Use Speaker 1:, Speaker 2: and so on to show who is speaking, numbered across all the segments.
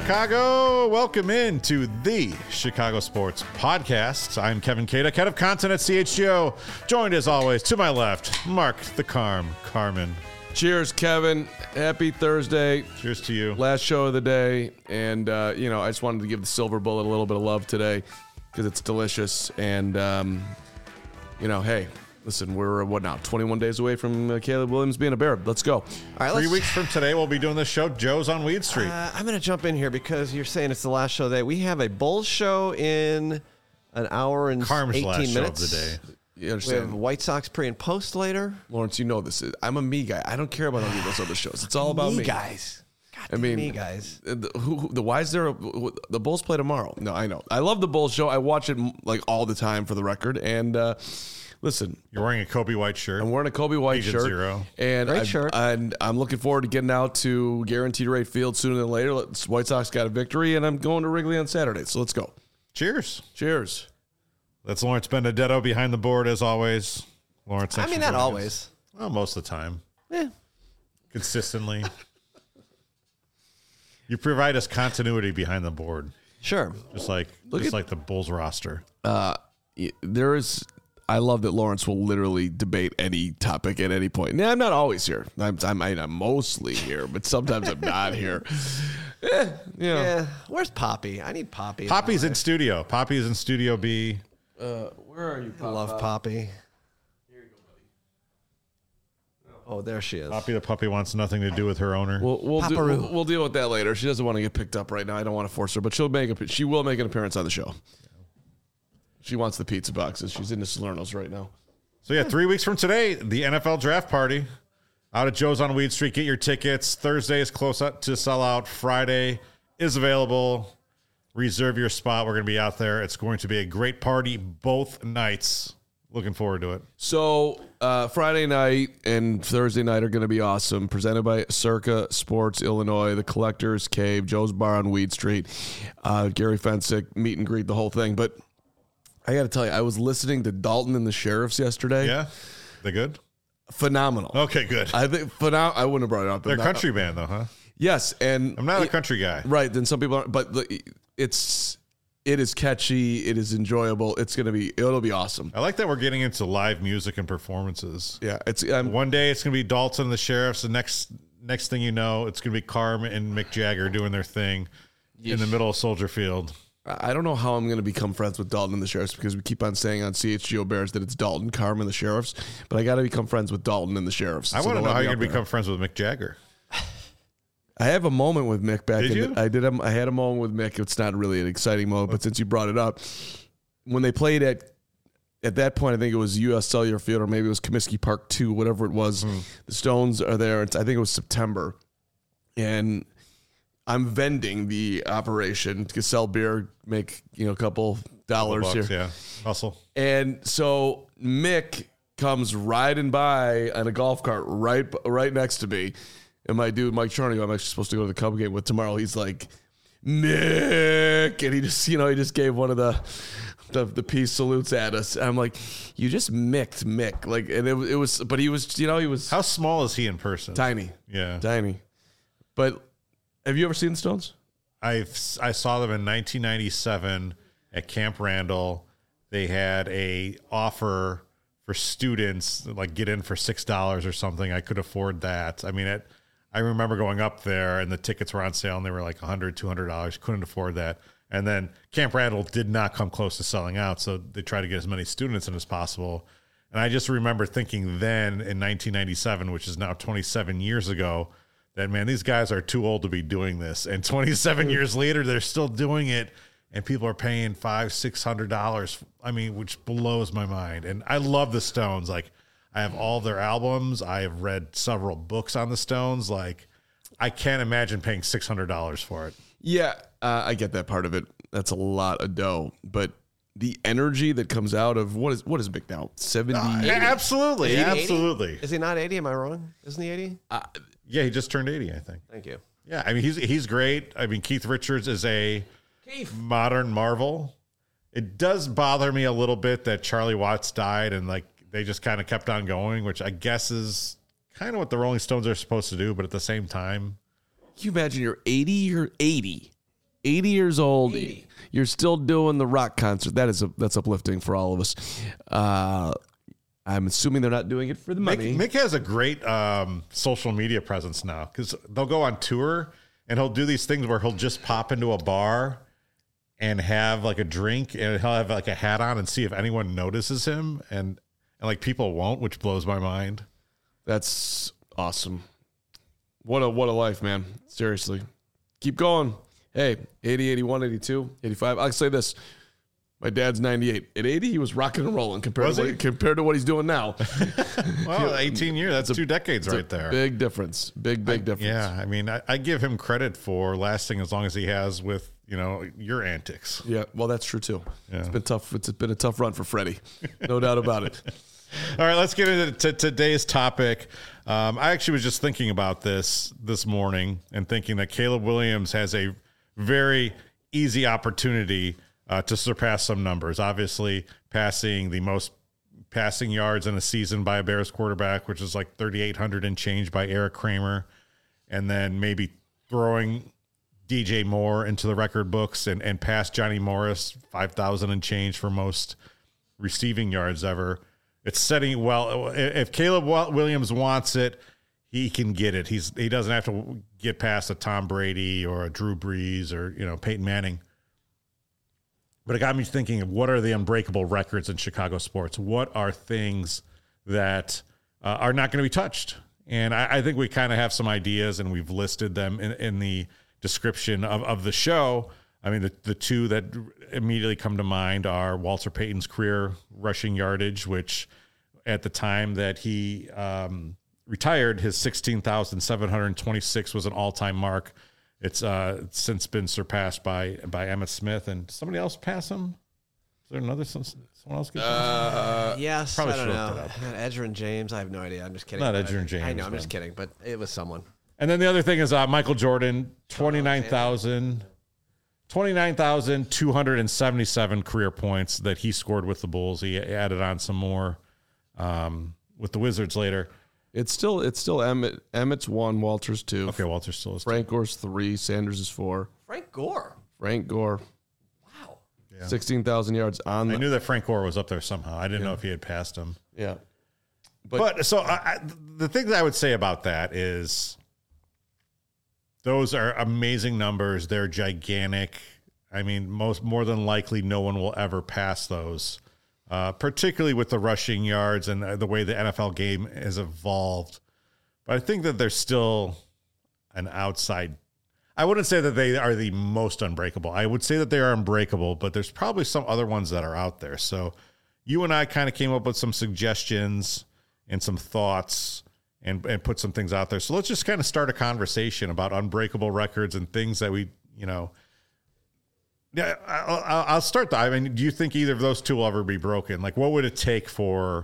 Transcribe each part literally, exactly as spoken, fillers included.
Speaker 1: Chicago. Welcome in to the Chicago Sports Podcast. I'm Kevin Cada, head of content at C H G O. Joined as always to my left, Mark the Carm Carmen.
Speaker 2: Cheers, Kevin. Happy Thursday.
Speaker 1: Cheers to you.
Speaker 2: Last show of the day. And, uh, you know, I just wanted to give the Silver Bullet a little bit of love today because it's delicious. And, um, you know, hey, listen, we're, what now, twenty-one days away from uh, Caleb Williams being a Bear. Let's go. All
Speaker 3: right,
Speaker 1: Three weeks from today, we'll be doing this show. Joe's on Weed Street.
Speaker 3: Uh, I'm going to jump in here because you're saying it's the last show of the day. We have a Bulls show in an hour and
Speaker 1: Carm's
Speaker 3: eighteen
Speaker 1: last
Speaker 3: minutes.
Speaker 1: show of the day.
Speaker 2: You
Speaker 3: We
Speaker 2: understand?
Speaker 3: have White Sox pre and post later.
Speaker 2: Lawrence, you know this. I'm a me guy. I don't care about any of those other shows. It's all about me.
Speaker 3: me guys. God
Speaker 2: I mean,
Speaker 3: me guys.
Speaker 2: The, who, who, the why is there a, the Bulls play tomorrow? No, I know. I love the Bulls show. I watch it like all the time for the record. And uh, listen,
Speaker 1: You're wearing a Kobe White shirt.
Speaker 2: I'm wearing a Kobe White
Speaker 1: Agent
Speaker 2: shirt.
Speaker 1: Zero.
Speaker 2: And
Speaker 3: Great
Speaker 2: I've-
Speaker 3: shirt.
Speaker 2: And I'm looking forward to getting out to Guaranteed Rate Field sooner than later. Let's, White Sox got a victory, and I'm going to Wrigley on Saturday. So let's go.
Speaker 1: Cheers.
Speaker 2: Cheers.
Speaker 1: That's Lawrence Benedetto behind the board as always. Lawrence,
Speaker 3: I
Speaker 1: thanks
Speaker 3: mean,
Speaker 1: for
Speaker 3: not
Speaker 1: joining
Speaker 3: always.
Speaker 1: us. Well, most of the time.
Speaker 3: Eh.
Speaker 1: Consistently. You provide us continuity behind the board.
Speaker 3: Sure.
Speaker 1: Just like
Speaker 2: Look
Speaker 1: just
Speaker 2: at-
Speaker 1: like the Bulls roster.
Speaker 2: Uh, y- there is. I love that Lawrence will literally debate any topic at any point. Now, I'm not always here. I'm, I'm, I'm mostly here, but sometimes I'm not here. Eh, you know.
Speaker 3: Yeah. Where's Poppy? I need Poppy.
Speaker 1: Poppy's in studio. Poppy's in studio B.
Speaker 2: Uh, where are you?
Speaker 3: I love Poppy. Oh, there she is.
Speaker 1: Poppy the puppy wants nothing to do with her owner.
Speaker 2: We'll we'll, do,
Speaker 3: Paparoo.
Speaker 2: we'll we'll deal with that later. She doesn't want to get picked up right now. I don't want to force her, but she'll make a she will make an appearance on the show. She wants the pizza boxes. She's into Salerno's right now.
Speaker 1: So yeah, three weeks from today, the N F L draft party out at Joe's on Weed Street. Get your tickets. Thursday is close up to sell out. Friday is available. Reserve your spot. We're going to be out there. It's going to be a great party both nights. Looking forward to it.
Speaker 2: So uh, Friday night and Thursday night are going to be awesome. Presented by Circa Sports Illinois, the Collectors Cave, Joe's Bar on Weed Street, uh, Gary Fensick, meet and greet, the whole thing. But I got to tell you, I was listening to Dalton and the Sheriffs yesterday.
Speaker 1: Yeah? They good?
Speaker 2: Phenomenal.
Speaker 1: Okay, good.
Speaker 2: I think phenom- I wouldn't have brought it up.
Speaker 1: They're a
Speaker 2: Not-
Speaker 1: country band, though, huh?
Speaker 2: Yes, and
Speaker 1: I'm not a
Speaker 2: it-
Speaker 1: country guy.
Speaker 2: Right, then some people aren't, but the, it's it is catchy, it is enjoyable. It's gonna be it'll be awesome.
Speaker 1: I like that we're getting into live music and performances.
Speaker 2: Yeah, it's um,
Speaker 1: One day it's going to be Dalton and the Sheriffs. The next next thing you know, it's going to be Carm and Mick Jagger doing their thing in the middle of Soldier Field.
Speaker 2: I don't know how I'm gonna become friends with Dalton and the Sheriffs because we keep on saying on C H G O Bears that it's Dalton, Carm, and the Sheriffs, but I got to become friends with Dalton and the Sheriffs.
Speaker 1: I
Speaker 2: So
Speaker 1: want to
Speaker 2: they'll
Speaker 1: know how
Speaker 2: let me
Speaker 1: you're
Speaker 2: up
Speaker 1: going to
Speaker 2: there.
Speaker 1: become friends with Mick Jagger.
Speaker 2: I have a moment with Mick back.
Speaker 1: Did
Speaker 2: in
Speaker 1: you?
Speaker 2: The, I did. A, I had a moment with Mick. It's not really an exciting moment, but since you brought it up, when they played at at that point, I think it was U S Cellular Field or maybe it was Comiskey Park two, whatever it was.
Speaker 1: Hmm.
Speaker 2: The Stones are there. It's, I think it was September, and I'm vending the operation to sell beer, make you know a couple dollars
Speaker 1: Bucks,
Speaker 2: here.
Speaker 1: yeah. Hustle.
Speaker 2: And so Mick comes riding by on a golf cart right right next to me. And my dude, Mike Charney, who I'm actually supposed to go to the Cub game with tomorrow, he's like, Mick. And he just, you know, he just gave one of the the, the peace salutes at us. And I'm like, you just micked Mick. Like, and it, it was, but he was, you know, he was
Speaker 1: How small is he in person?
Speaker 2: tiny.
Speaker 1: Yeah.
Speaker 2: Tiny. But have you ever seen the Stones?
Speaker 1: I've I saw them in nineteen ninety-seven at Camp Randall. They had a offer for students, like get in for six dollars or something. I could afford that. I mean, it, I remember going up there and the tickets were on sale and they were like one hundred dollars, two hundred dollars. Couldn't afford that. And then Camp Randall did not come close to selling out, so they tried to get as many students in as possible. And I just remember thinking then in nineteen ninety-seven, which is now twenty-seven years ago, that, man, these guys are too old to be doing this. And twenty-seven years later, they're still doing it, and people are paying five, six hundred dollars. I mean, which blows my mind. And I love the Stones. Like, I have all their albums. I have read several books on the Stones. Like, I can't imagine paying six hundred dollars for it.
Speaker 2: Yeah, uh, I get that part of it. That's a lot of dough. But the energy that comes out of what is what is Mick now? seventy
Speaker 1: Uh, absolutely,
Speaker 3: Is he eighty?
Speaker 1: absolutely.
Speaker 3: Is he not eighty? Am I wrong? Isn't he eighty?
Speaker 2: Uh,
Speaker 1: Yeah, he just turned eighty, I think.
Speaker 3: Thank you.
Speaker 1: Yeah, I mean, he's he's great. I mean, Keith Richards is a
Speaker 3: Keith.
Speaker 1: modern marvel. It does bother me a little bit that Charlie Watts died and, like, they just kind of kept on going, which I guess is kind of what the Rolling Stones are supposed to do, but at the same time,
Speaker 2: Can you imagine you're eighty, you're eighty, eighty years old. eighty. You're still doing the rock concert. That is a, that's uplifting for all of us. Uh, I'm assuming they're not doing it for the money.
Speaker 1: Mick, Mick has a great um, social media presence now because they'll go on tour and he'll do these things where he'll just pop into a bar and have like a drink and he'll have like a hat on and see if anyone notices him. And, and like people won't, which blows my mind.
Speaker 2: That's awesome. What a, what a life, man. Seriously. Keep going. Hey, eighty, eighty-one, eighty-two, eighty-five. I'll say this. My dad's ninety-eight. At eighty, he was rocking and rolling compared, to what, compared to what he's doing now.
Speaker 1: Well, eighteen years, that's two decades right there.
Speaker 2: Big difference. Big, big
Speaker 1: I,
Speaker 2: difference.
Speaker 1: Yeah, I mean, I, I give him credit for lasting as long as he has with, you know, your antics.
Speaker 2: Yeah, well, that's true, too.
Speaker 1: Yeah.
Speaker 2: It's been tough. It's been a tough run for Freddie. No doubt about it.
Speaker 1: All right, let's get into t- today's topic. Um, I actually was just thinking about this this morning and thinking that Caleb Williams has a very easy opportunity uh, to surpass some numbers. Obviously, passing the most passing yards in a season by a Bears quarterback, which is like thirty-eight hundred and change by Eric Kramer, and then maybe throwing D J Moore into the record books and, and past Johnny Morris, five thousand and change for most receiving yards ever. It's setting well. If Caleb Williams wants it, he can get it. He's he doesn't have to get past a Tom Brady or a Drew Brees or you know Peyton Manning. But it got me thinking of what are the unbreakable records in Chicago sports? What are things that uh, are not going to be touched? And I, I think we kind of have some ideas, and we've listed them in, in the description of, of the show. I mean, the, the two that immediately come to mind are Walter Payton's career rushing yardage, which at the time that he um, retired, his sixteen thousand seven hundred twenty-six was an all-time mark. It's uh, since been surpassed by by Emmitt Smith. And somebody else pass him? Is there another someone else? Get
Speaker 3: uh, yes,
Speaker 1: Probably
Speaker 3: I don't
Speaker 1: should
Speaker 3: know.
Speaker 1: have looked it up.
Speaker 3: Edgerrin James, I have no idea. I'm just kidding.
Speaker 1: Not Edgerrin James.
Speaker 3: I know, I'm
Speaker 1: man.
Speaker 3: just kidding, but it was someone.
Speaker 1: And then the other thing is uh, Michael Jordan, twenty-nine thousand twenty-nine thousand two hundred seventy-seven career points that he scored with the Bulls. He added on some more um, with the Wizards later.
Speaker 2: It's still it's still Emmett. Emmett's one, Walter's two.
Speaker 1: Okay, Walter still is.
Speaker 2: Frank Gore's three, Sanders is four.
Speaker 3: Frank Gore.
Speaker 2: Frank Gore.
Speaker 3: Wow.
Speaker 1: Yeah.
Speaker 2: sixteen thousand yards on
Speaker 1: I
Speaker 2: the,
Speaker 1: knew that Frank Gore was up there somehow. I didn't yeah. know if he had passed him.
Speaker 2: Yeah.
Speaker 1: But, but so I, I, the thing that I would say about that is those are amazing numbers. They're gigantic. I mean, most more than likely, no one will ever pass those, uh, particularly with the rushing yards and the way the N F L game has evolved. But I think that there's still an outside. I wouldn't say that they are the most unbreakable. I would say that they are unbreakable, but there's probably some other ones that are out there. So you and I kind of came up with some suggestions and some thoughts and, and put some things out there. So let's just kind of start a conversation about unbreakable records and things that we, you know, yeah, I'll, I'll start. The, I mean, do you think either of those two will ever be broken? Like, what would it take for?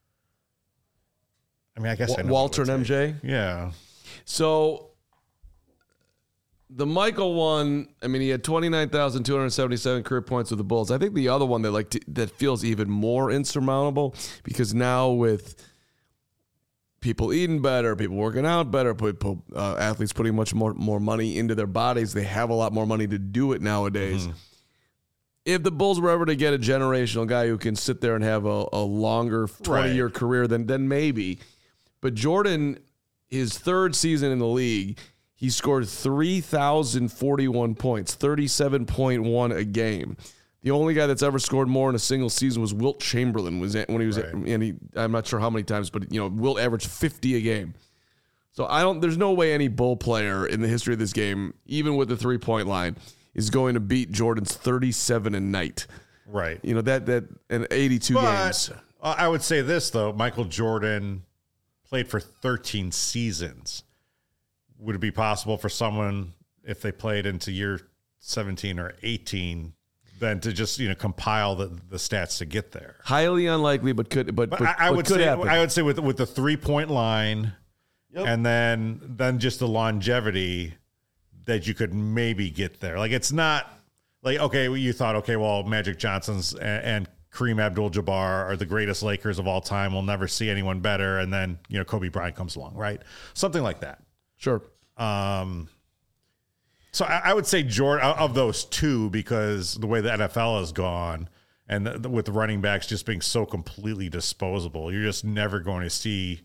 Speaker 1: I mean, I guess I know
Speaker 2: Walter and M J.
Speaker 1: Yeah.
Speaker 2: So the Michael one, I mean, he had twenty-nine thousand two hundred seventy-seven career points with the Bulls. I think the other one that like t- that feels even more insurmountable because now with people eating better, people working out better, people, uh, athletes putting much more, more money into their bodies. They have a lot more money to do it nowadays. Mm-hmm. If the Bulls were ever to get a generational guy who can sit there and have a, a longer twenty-year right. career, then, then maybe. But Jordan, his third season in the league, he scored three thousand forty-one points, thirty-seven point one a game. The only guy that's ever scored more in a single season was Wilt Chamberlain. Was when he was, right. and he, I'm not sure how many times, but you know, Wilt averaged fifty a game. So I don't. There's no way any Bull player in the history of this game, even with the three point line, is going to beat Jordan's thirty-seven a night.
Speaker 1: Right.
Speaker 2: You know that that and eighty-two
Speaker 1: but,
Speaker 2: games.
Speaker 1: I would say this though: Michael Jordan played for thirteen seasons. Would it be possible for someone if they played into year seventeen or eighteen? Than to just you know compile the, the stats to get there.
Speaker 2: Highly unlikely, but could but,
Speaker 1: but,
Speaker 2: but
Speaker 1: I, I
Speaker 2: but
Speaker 1: would
Speaker 2: could
Speaker 1: say
Speaker 2: happen.
Speaker 1: I would say with with the three point line,
Speaker 2: yep.
Speaker 1: and then then just the longevity that you could maybe get there. Like it's not like okay, well, you thought okay, well Magic Johnson's and, and Kareem Abdul-Jabbar are the greatest Lakers of all time. We'll never see anyone better, and then you know Kobe Bryant comes along, right? Something like that.
Speaker 2: Sure.
Speaker 1: Um. So I, I would say Jordan of those two, because the way the N F L has gone, and the, the, with the running backs just being so completely disposable, you're just never going to see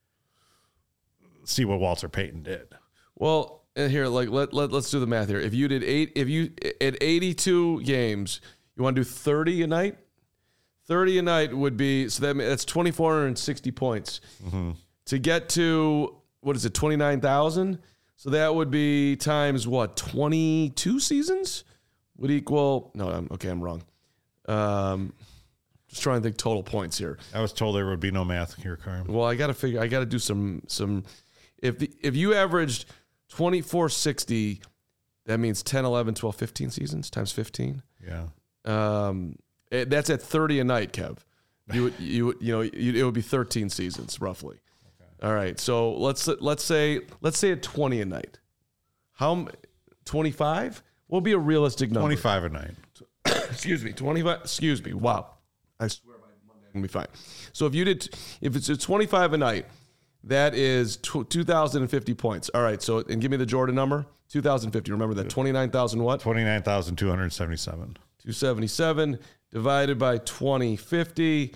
Speaker 1: see what Walter Payton did.
Speaker 2: Well, and here, like let, let let's do the math here. If you did eight, if you at eighty-two games, you want to do thirty a night. thirty a night would be so that that's twenty-four hundred sixty points
Speaker 1: Mm-hmm.
Speaker 2: to get to what is it, twenty-nine thousand? So that would be times what, twenty-two seasons would equal. No, I'm okay. I'm wrong. Um, just trying to think total points here.
Speaker 1: I was told there would be no math here, Carm.
Speaker 2: Well, I got to figure. I got to do some some. If the, if you averaged twenty-four sixty, that means ten, eleven, twelve, fifteen seasons times fifteen.
Speaker 1: Yeah.
Speaker 2: Um, it, that's at thirty a night, Kev. You would you would, you know you, it would be thirteen seasons roughly. Okay. All right. So let's let's say let's say at twenty a night. How twenty-five? What would be a realistic number?
Speaker 1: twenty-five a night.
Speaker 2: Excuse me, twenty-five. Excuse me. Wow. I swear by Monday I'm gonna be fine. So if you did, if it's a twenty-five a night, that is two thousand fifty points. All right. So and give me the Jordan number. two thousand fifty. Remember that twenty-nine thousand what?
Speaker 1: twenty-nine thousand two hundred seventy-seven.
Speaker 2: two seventy-seven divided by twenty fifty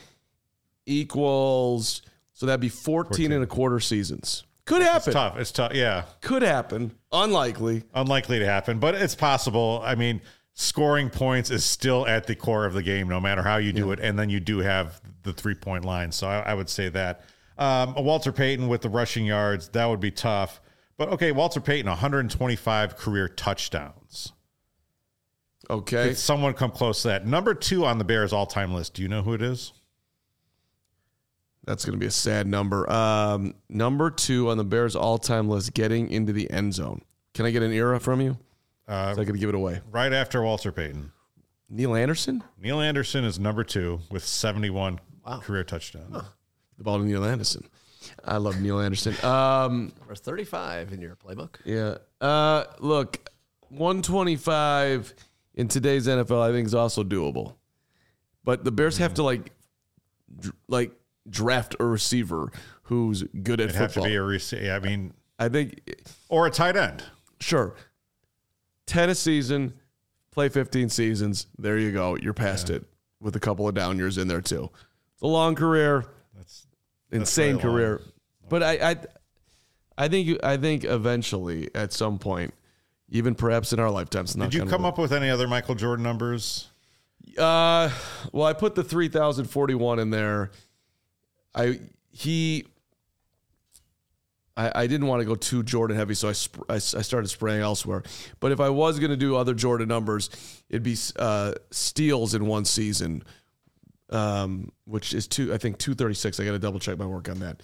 Speaker 2: equals. So that'd be fourteen, fourteen and a quarter seasons. Could happen.
Speaker 1: It's tough. It's tough. Yeah.
Speaker 2: Could happen. Unlikely.
Speaker 1: Unlikely to happen, but it's possible. I mean, scoring points is still at the core of the game, no matter how you do yeah. it. And then you do have the three-point line. So I, I would say that. Um, Walter Payton with the rushing yards, that would be tough. But, okay, Walter Payton, one hundred twenty-five career touchdowns.
Speaker 2: Okay.
Speaker 1: Could someone come close to that? Number two on the Bears all-time list. Do you know who it is?
Speaker 2: That's going to be a sad number. Um, number two on the Bears all-time list, getting into the end zone. Can I get an era from you? Uh, so I could give it away.
Speaker 1: Right after Walter Payton.
Speaker 2: Neil Anderson?
Speaker 1: Neil Anderson is number two with seventy-one
Speaker 3: wow.
Speaker 1: career touchdowns. Huh.
Speaker 2: The ball to Neil Anderson. I love Neil Anderson. Um,
Speaker 3: There's thirty-five in your playbook.
Speaker 2: Yeah. Uh, look, one twenty-five in today's N F L I think is also doable. But the Bears mm-hmm. have to, like, dr- like, draft a receiver who's good at
Speaker 1: It'd
Speaker 2: football.
Speaker 1: have to be a receiver. I mean,
Speaker 2: I think,
Speaker 1: or a tight end.
Speaker 2: Sure, ten a season, play fifteen seasons. There you go. You're past yeah. it with a couple of down years in there too. It's a long career. That's insane that's career. Long. But I, I, I think I think eventually at some point, even perhaps in our lifetimes.
Speaker 1: Did you come up with any other Michael Jordan numbers?
Speaker 2: Uh, well, I put the three thousand forty-one in there. I he I, I didn't want to go too Jordan heavy, so I, sp- I I started spraying elsewhere. But if I was going to do other Jordan numbers, it'd be uh, steals in one season, um, which is two. I think two thirty-six. I got to double check my work on that.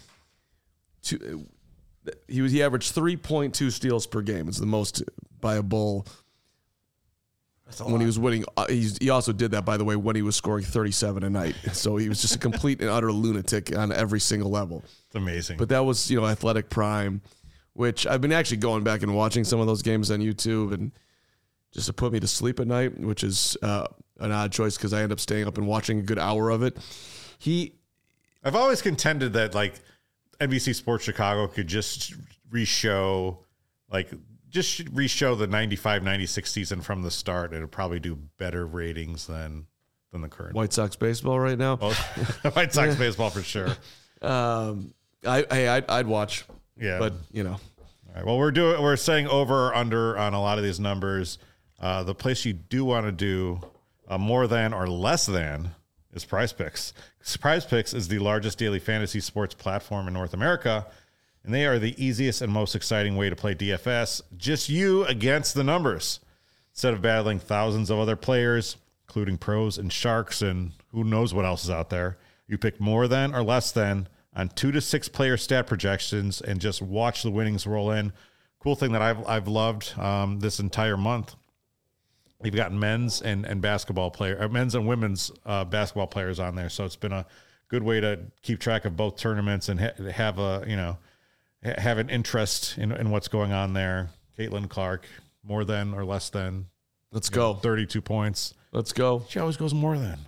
Speaker 2: Two, he was he averaged three point two steals per game. It's the most by a Bull. When lot. he was winning, uh, he's, he also did that, by the way, when he was scoring thirty-seven a night. So he was just a complete and utter lunatic on every single level.
Speaker 1: It's amazing.
Speaker 2: But that was, you know, athletic prime, which I've been actually going back and watching some of those games on YouTube, and just to put me to sleep at night, which is uh, an odd choice because I end up staying up and watching a good hour of it. He,
Speaker 1: I've always contended that like N B C Sports Chicago could just re-show like. Just re-show the ninety-five ninety-six season from the start. It'll probably do better ratings than than the current.
Speaker 2: White Sox baseball right now?
Speaker 1: Well, White Sox baseball for sure.
Speaker 2: Um, I, hey, I'd, I'd watch.
Speaker 1: Yeah.
Speaker 2: But, you know.
Speaker 1: All right. Well, we're doing, we're saying over or under on a lot of these numbers. Uh, the place you do want to do uh, more than or less than is Prize Picks. Prize Picks is the largest daily fantasy sports platform in North America. And they are the easiest and most exciting way to play D F S. Just you against the numbers. Instead of battling thousands of other players, including pros and sharks and who knows what else is out there, you pick more than or less than on two to six player stat projections and just watch the winnings roll in. Cool thing that I've I've loved um, this entire month. We've got men's and, and basketball player, or men's and women's uh, basketball players on there. So it's been a good way to keep track of both tournaments and ha- have a, you know, have an interest in, in what's going on there. Caitlin Clark, more than or less than.
Speaker 2: Let's go.
Speaker 1: Know, thirty-two points.
Speaker 2: Let's go.
Speaker 1: She always goes more than.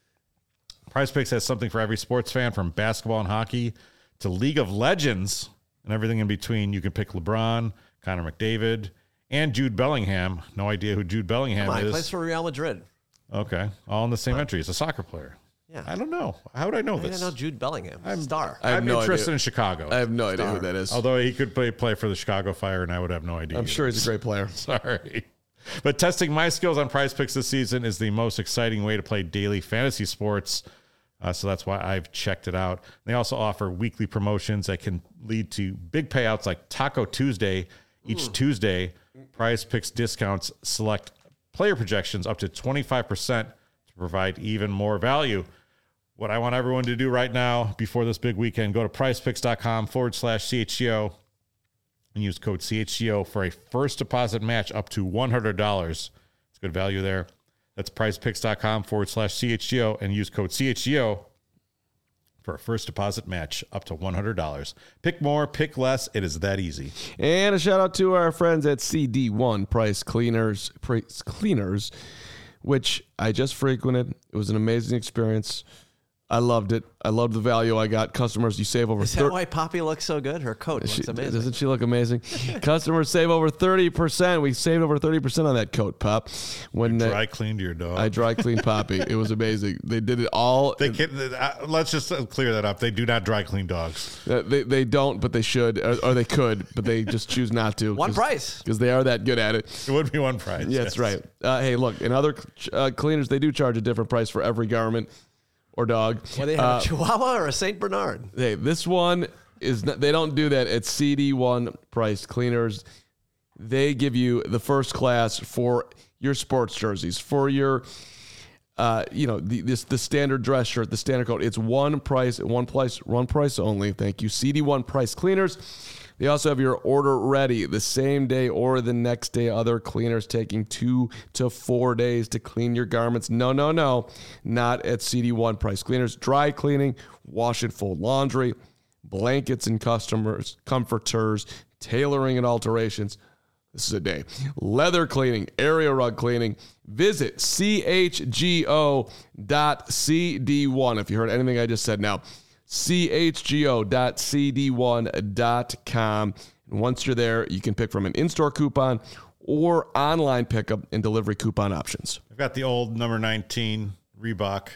Speaker 1: Prize Picks has something for every sports fan, from basketball and hockey to League of Legends and everything in between. You can pick LeBron, Connor McDavid, and Jude Bellingham. No idea who Jude Bellingham
Speaker 3: Come on, he
Speaker 1: is.
Speaker 3: plays for Real Madrid.
Speaker 1: Okay, all in the same entry. He's a soccer player.
Speaker 3: Yeah.
Speaker 1: I don't know. How would I know
Speaker 3: I
Speaker 1: this?
Speaker 3: didn't know Jude Bellingham. I'm star.
Speaker 2: I have
Speaker 1: I'm
Speaker 2: no
Speaker 1: interested
Speaker 2: idea.
Speaker 1: in Chicago.
Speaker 2: I have no idea who that is.
Speaker 1: Although he could play play for the Chicago Fire, and I would have no idea.
Speaker 2: I'm
Speaker 1: either.
Speaker 2: sure he's a great player.
Speaker 1: Sorry. But testing my skills on Prize Picks this season is the most exciting way to play daily fantasy sports. Uh, so that's why I've checked it out. They also offer weekly promotions that can lead to big payouts like Taco Tuesday. Each mm. Tuesday, Prize Picks discounts select player projections up to twenty-five percent to provide even more value. What I want everyone to do right now before this big weekend, go to prizepicks.com forward slash CHGO and use code C H G O for a first deposit match up to one hundred dollars. It's good value there. That's prizepicks.com forward slash CHGO and use code C H G O for a first deposit match up to one hundred dollars. Pick more, pick less. It is that easy.
Speaker 2: And a shout out to our friends at C D one Price Cleaners, Price Cleaners, which I just frequented. It was an amazing experience. I loved it. I loved the value I got. Customers, you save over.
Speaker 3: Is that
Speaker 2: thir-
Speaker 3: why Poppy looks so good? Her coat looks
Speaker 2: she,
Speaker 3: amazing.
Speaker 2: Doesn't she look amazing? Customers save over thirty percent. We saved over thirty percent on that coat, Pop. When
Speaker 1: You dry
Speaker 2: uh,
Speaker 1: cleaned your dog.
Speaker 2: I dry cleaned Poppy. It was amazing. They did it all.
Speaker 1: They can, uh, let's just clear that up. They do not dry clean dogs.
Speaker 2: Uh, they they don't, but they should, or, or they could, but they just choose not to.
Speaker 3: One price.
Speaker 2: Because they are that good at it.
Speaker 1: It would be one price.
Speaker 2: Yeah, that's right. Uh, hey, look, in other uh, cleaners, they do charge a different price for every garment or dog.
Speaker 3: Well, they have
Speaker 2: Uh,
Speaker 3: a Chihuahua or a Saint Bernard.
Speaker 2: Hey, this one is not, they don't do that at C D one Price Cleaners. They give you the first class for your sports jerseys, for your, uh, you know, the, this the standard dress shirt, the standard coat. It's one price, one price, one price only. Thank you, C D one Price Cleaners. They also have your order ready the same day or the next day. Other cleaners taking two to four days to clean your garments. No, no, no. Not at C D one Price Cleaners. Dry cleaning, wash and fold laundry, blankets and customers, comforters, tailoring and alterations. This is a day. Leather cleaning, area rug cleaning. Visit C H G O dot C D one. If you heard anything I just said now. C H G O dot C D one dot com. And once you're there, you can pick from an in-store coupon or online pickup and delivery coupon options.
Speaker 1: I've got the old number nineteen Reebok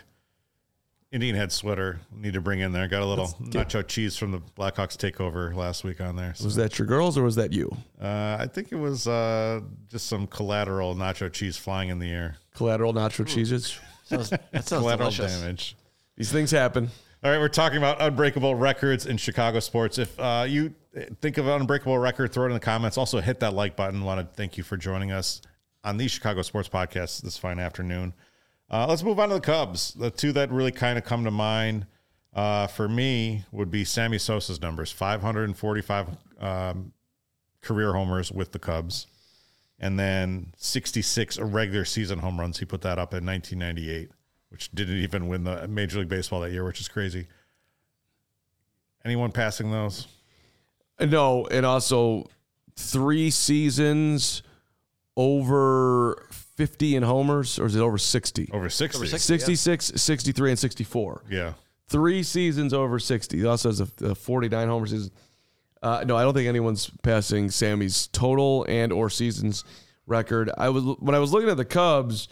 Speaker 1: Indian head sweater. Need to bring in there. Got a little nacho cheese from the Blackhawks takeover last week on there. So.
Speaker 2: Was that your girls or was that you?
Speaker 1: Uh, I think it was uh, just some collateral nacho cheese flying in the air.
Speaker 2: Collateral nacho cheeses.
Speaker 3: Sounds, that sounds
Speaker 1: Collateral
Speaker 3: delicious.
Speaker 1: damage.
Speaker 2: These things happen.
Speaker 1: All right, we're talking about unbreakable records in Chicago sports. If uh, you think of an unbreakable record, throw it in the comments. Also, hit that like button. Want to thank you for joining us on the Chicago Sports Podcast this fine afternoon. Uh, let's move on to the Cubs. The two that really kind of come to mind uh, for me would be Sammy Sosa's numbers, five hundred forty-five um, career homers with the Cubs, and then sixty-six regular season home runs. He put that up in nineteen ninety-eight. Which didn't even win the Major League Baseball that year, which is crazy. Anyone passing those?
Speaker 2: No, and also three seasons over fifty in homers, or is it over sixty?
Speaker 1: Over sixty.
Speaker 3: Over sixty.
Speaker 2: sixty-six, sixty-three, and sixty-four.
Speaker 1: Yeah.
Speaker 2: Three seasons over sixty. He also has a, a forty-nine homer season. Uh, no, I don't think anyone's passing Sammy's total and or seasons record. I was when I was looking at the Cubs,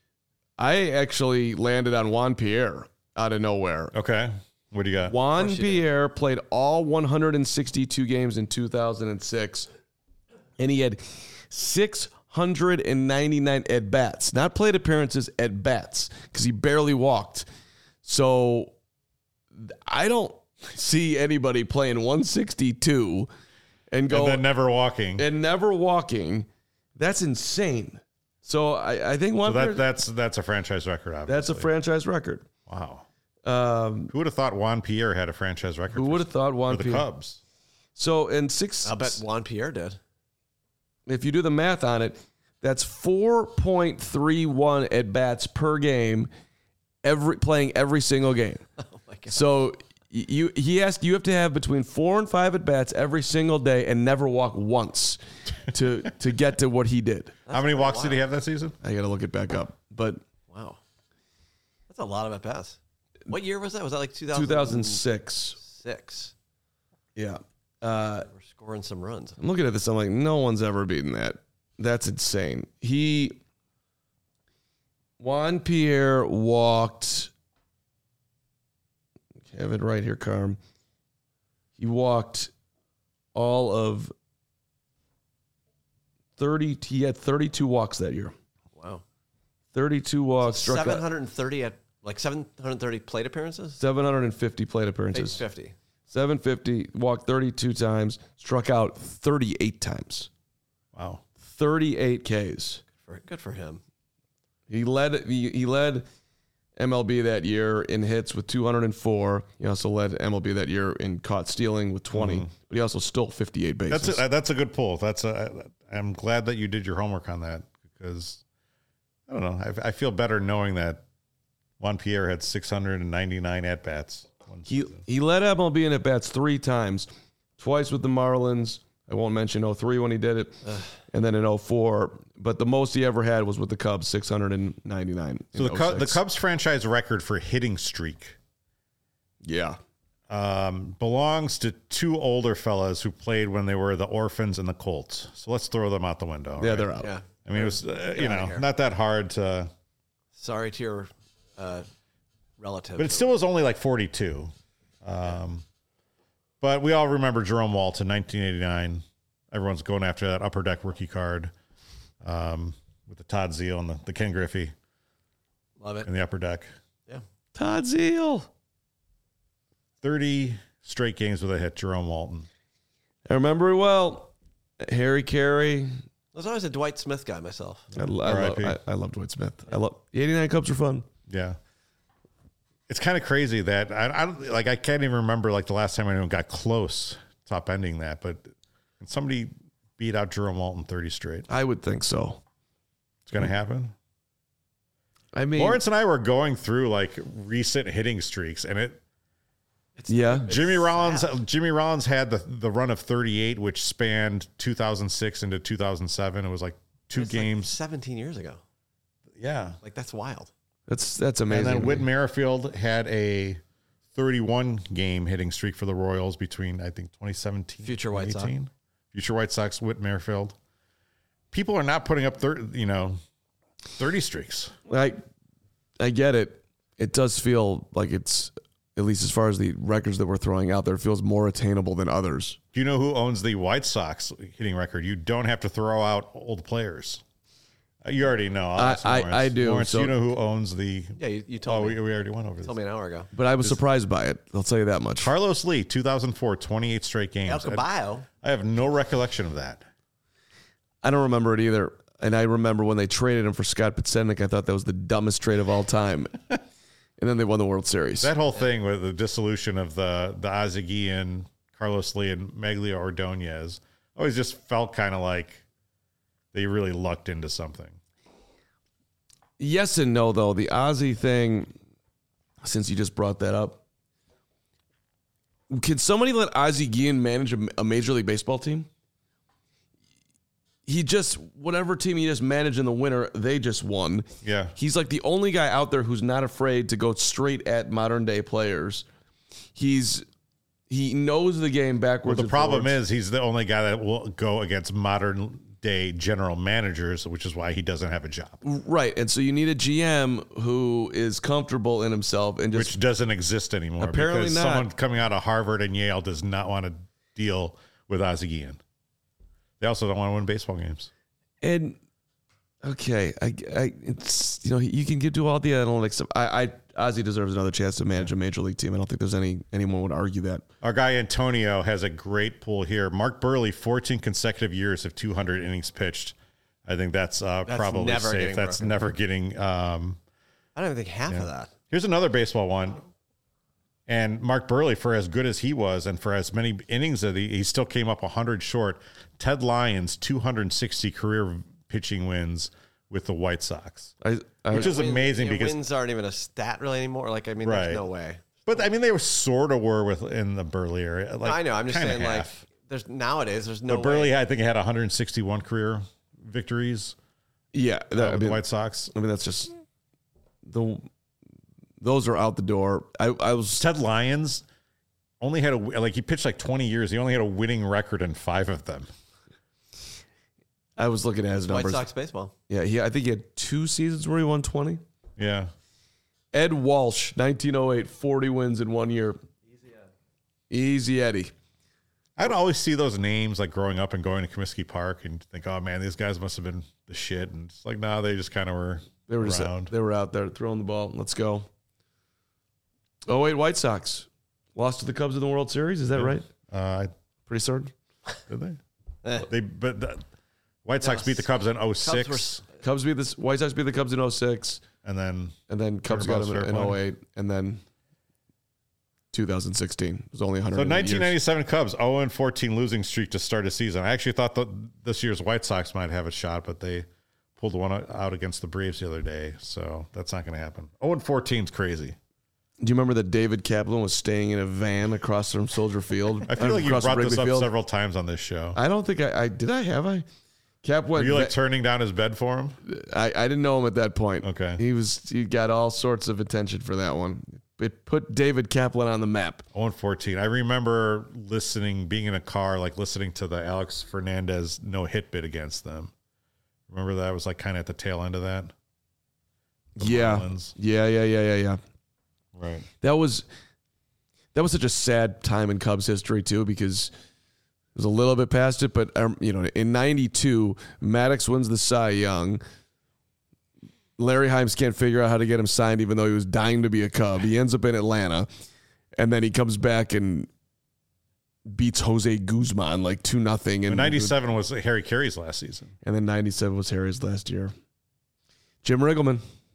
Speaker 2: I actually landed on Juan Pierre out of nowhere.
Speaker 1: Okay. What do you got?
Speaker 2: Juan Pierre played all one hundred sixty-two games in two thousand six, and he had six hundred ninety-nine at-bats. Not plate appearances, at-bats, because he barely walked. So I don't see anybody playing one sixty-two and go
Speaker 1: And then never walking.
Speaker 2: and never walking. That's insane. So I, I think Juan
Speaker 1: So that,
Speaker 2: Pierre,
Speaker 1: that's that's a franchise record, obviously.
Speaker 2: that's a franchise record.
Speaker 1: Wow.
Speaker 2: Um,
Speaker 1: Who would have thought Juan Pierre had a franchise record?
Speaker 2: who
Speaker 1: for-
Speaker 2: would have thought Juan
Speaker 1: for the
Speaker 2: Pierre?
Speaker 1: Cubs?
Speaker 2: So in six,
Speaker 3: I'll bet Juan Pierre did.
Speaker 2: if you do the math on it, that's four point three one at bats per game, every playing every single game.
Speaker 3: Oh my god.
Speaker 2: So you he asked you have to have between four and five at bats every single day and never walk once to to get to what he did.
Speaker 1: How many walks did he have that season?
Speaker 2: I got to look it back up, but
Speaker 3: Wow. That's a lot of at bats. What year was that? Was that like two thousand?
Speaker 2: two thousand six.
Speaker 3: Six.
Speaker 2: Yeah. Uh,
Speaker 3: We're scoring some runs.
Speaker 2: I'm looking at this. I'm like, no one's ever beaten that. That's insane. He Juan Pierre walked. I have it right here, Carm. He walked all of thirty. He had thirty-two walks that year.
Speaker 3: Wow.
Speaker 2: thirty-two walks.
Speaker 3: So
Speaker 2: struck
Speaker 3: seven hundred thirty at like seven hundred thirty plate appearances.
Speaker 2: seven hundred fifty plate appearances.
Speaker 3: Page fifty.
Speaker 2: seven fifty, walked thirty-two times, struck out thirty-eight times.
Speaker 1: Wow.
Speaker 2: thirty-eight Ks.
Speaker 3: For, good for him.
Speaker 2: He led he, he led M L B that year in hits with two hundred four. He also led M L B that year in caught stealing with twenty. Mm. But he also stole fifty-eight bases.
Speaker 1: That's a, that's a good pull. That's a. I'm glad that you did your homework on that because I don't know. I, I feel better knowing that Juan Pierre had six hundred ninety-nine at bats.
Speaker 2: He he led M L B in at bats three times, twice with the Marlins. I won't mention oh three when he did it, Ugh. and then in oh four. But the most he ever had was with the Cubs, six hundred ninety-nine.
Speaker 1: So the Cubs, the Cubs franchise record for hitting streak,
Speaker 2: yeah,
Speaker 1: um, belongs to two older fellas who played when they were the Orphans and the Colts. So let's throw them out the window.
Speaker 2: Yeah,
Speaker 1: right?
Speaker 2: they're out.
Speaker 3: Yeah.
Speaker 1: I mean, it was uh, you know not that hard to.
Speaker 3: Sorry to your uh, relative,
Speaker 1: but it still was only like forty-two. Um, but we all remember Jerome Walton, nineteen eighty-nine. Everyone's going after that upper deck rookie card. Um, with the Todd Zeal and the, the Ken Griffey.
Speaker 3: Love it.
Speaker 1: In the upper deck.
Speaker 3: Yeah.
Speaker 2: Todd Zeal.
Speaker 1: thirty straight games with a hit, Jerome Walton.
Speaker 2: I remember it well. Harry Carey.
Speaker 3: I was always a Dwight Smith guy myself.
Speaker 2: I, I, love, I, I love Dwight Smith. I love the eighty-nine Cubs are fun.
Speaker 1: Yeah. It's kind of crazy that I, I don't like, I can't even remember like the last time anyone got close top ending that, but somebody beat out Jerome Walton thirty straight.
Speaker 2: I would think so.
Speaker 1: It's going to happen.
Speaker 2: I mean,
Speaker 1: Lawrence and I were going through like recent hitting streaks, and it.
Speaker 2: It's, yeah,
Speaker 1: Jimmy Rollins. Sad. Jimmy Rollins had the the run of thirty-eight, which spanned two thousand six into two thousand seven. It was like two
Speaker 3: it's
Speaker 1: games,
Speaker 3: like seventeen years ago.
Speaker 1: Yeah,
Speaker 3: like that's wild.
Speaker 2: That's that's amazing.
Speaker 1: And then Whit Merrifield had a thirty-one game hitting streak for the Royals between I think twenty seventeen,
Speaker 3: future White Sox.
Speaker 1: Future White Sox, Whit Merrifield. People are not putting up thirty, you know, thirty streaks.
Speaker 2: I, I get it. It does feel like it's, at least as far as the records that we're throwing out there, it feels more attainable than others.
Speaker 1: Do you know who owns the White Sox hitting record? You don't have to throw out old players. You already know.
Speaker 2: I, I, I do.
Speaker 1: Lawrence,
Speaker 2: so,
Speaker 1: you know who owns the...
Speaker 3: Yeah, you, you told
Speaker 1: oh,
Speaker 3: me.
Speaker 1: We, we already went over this.
Speaker 3: Told me an hour ago.
Speaker 2: But I was this, surprised by it. I'll tell you that much.
Speaker 1: Carlos Lee, two thousand four, twenty-eight straight games.
Speaker 3: El Caballo.
Speaker 1: I, I have no recollection of that.
Speaker 2: I don't remember it either. And I remember when they traded him for Scott Podsednik, I thought that was the dumbest trade of all time. And then they won the World Series.
Speaker 1: That whole thing with the dissolution of the the Ozzie Guillen, Carlos Lee, and Magglio Ordonez always just felt kind of like they really lucked into something.
Speaker 2: Yes and no, though. The Ozzie thing, since you just brought that up, can somebody let Ozzie Guillen manage a, a Major League Baseball team? He just, whatever team he just managed in the winter, they just won.
Speaker 1: Yeah.
Speaker 2: He's like the only guy out there who's not afraid to go straight at modern day players. He's he knows the game backwards.
Speaker 1: Well, the problem
Speaker 2: forwards.
Speaker 1: is he's the only guy that will go against modern day general managers, which is why he doesn't have a job.
Speaker 2: Right. And so you need a G M who is comfortable in himself and just
Speaker 1: which doesn't exist anymore.
Speaker 2: Apparently
Speaker 1: because
Speaker 2: not.
Speaker 1: Someone coming out of Harvard and Yale does not want to deal with Ozzie Guillen. They also don't want to win baseball games.
Speaker 2: And okay, I, I, it's you know you can get to all the analytics stuff. I, I Ozzie deserves another chance to manage a major league team. I don't think there's any anyone would argue that.
Speaker 1: Our guy Antonio has a great pool here. Mark Burley, fourteen consecutive years of two hundred innings pitched. I think that's, uh,
Speaker 3: that's
Speaker 1: probably
Speaker 3: never
Speaker 1: safe. That's
Speaker 3: broken.
Speaker 1: never getting. Um,
Speaker 3: I don't even think half
Speaker 1: yeah.
Speaker 3: of that.
Speaker 1: Here's another baseball one. And Mark Burley, for as good as he was, and for as many innings that he, he still came up one hundred short. Ted Lyons, two hundred sixty career pitching wins with the White Sox,
Speaker 2: I, I,
Speaker 1: which is
Speaker 3: Win-
Speaker 1: amazing
Speaker 3: you know,
Speaker 1: because
Speaker 3: wins aren't even a stat really anymore. Like I mean,
Speaker 1: Right.
Speaker 3: there's no way.
Speaker 1: But I mean, they were sort of were with in the Burley area. Like,
Speaker 3: No, I know. I'm just
Speaker 1: kinda
Speaker 3: saying,
Speaker 1: half.
Speaker 3: like, there's nowadays there's no
Speaker 1: But Burley,
Speaker 3: way.
Speaker 1: I think, had one hundred sixty-one career victories
Speaker 2: yeah,
Speaker 1: uh,
Speaker 2: that, I
Speaker 1: with the
Speaker 2: mean,
Speaker 1: White Sox.
Speaker 2: I mean that's just the those are out the door. I, I was
Speaker 1: Ted Lyons only had a like he pitched like twenty years. He only had a winning record in five of them.
Speaker 2: I was looking at his
Speaker 3: White
Speaker 2: numbers.
Speaker 3: Sox baseball.
Speaker 2: Yeah, he, I think he had two seasons where he won twenty.
Speaker 1: Yeah.
Speaker 2: Ed Walsh, nineteen oh eight, forty wins in one year. Easy Eddie. Easy Eddie.
Speaker 1: I'd always see those names like growing up and going to Comiskey Park and think, oh man, these guys must have been the shit. And it's like, no, nah, they just kind of were
Speaker 2: They were
Speaker 1: around.
Speaker 2: just they were out there throwing the ball. Let's go. oh eight White Sox lost to the Cubs in the World Series. Is that
Speaker 1: Yeah.
Speaker 2: right?
Speaker 1: Uh,
Speaker 2: Pretty certain.
Speaker 1: did they?
Speaker 3: Eh.
Speaker 1: They but the White Sox
Speaker 3: No,
Speaker 1: beat the Cubs in oh
Speaker 3: Cubs
Speaker 1: six,
Speaker 3: were-
Speaker 2: Cubs beat the White Sox beat the Cubs in oh six,
Speaker 1: and then
Speaker 2: and then Cubs got them in, in oh eight, and then two thousand sixteen. It was only one hundred.
Speaker 1: so nineteen ninety-seven Cubs oh and fourteen losing streak to start a season. I actually thought that this year's White Sox might have a shot, but they pulled one out against the Braves the other day, so that's not going to happen. oh and fourteen is crazy.
Speaker 2: Do you remember that David Kaplan was staying in a van across from Soldier Field?
Speaker 1: I feel like you
Speaker 2: Across
Speaker 1: brought
Speaker 2: from
Speaker 1: this
Speaker 2: Wrigley
Speaker 1: up
Speaker 2: Field?
Speaker 1: several times on this show.
Speaker 2: I don't think I, I did. I have I. Cap
Speaker 1: Were
Speaker 2: went.
Speaker 1: you like
Speaker 2: va-
Speaker 1: turning down his bed for him?
Speaker 2: I, I didn't know him at that point.
Speaker 1: Okay.
Speaker 2: He was he got all sorts of attention for that one. It put David Kaplan on the map.
Speaker 1: oh and fourteen. I remember listening, being in a car, like listening to the Alex Fernandez no hit bid against them. Remember that was like kind of at the tail end of that? The
Speaker 2: Yeah.
Speaker 1: Marlins.
Speaker 2: Yeah, yeah, yeah, yeah, yeah.
Speaker 1: Right.
Speaker 2: That was that was such a sad time in Cubs history too, because it was a little bit past it, but um, you know, in ninety-two, Maddox wins the Cy Young. Larry Himes can't figure out how to get him signed, even though he was dying to be a Cub. He ends up in Atlanta, and then he comes back and beats Jose Guzman like two nothing. And
Speaker 1: ninety-seven was Harry Carey's last season.
Speaker 2: and then ninety-seven was Harry's last year. Jim Riggleman.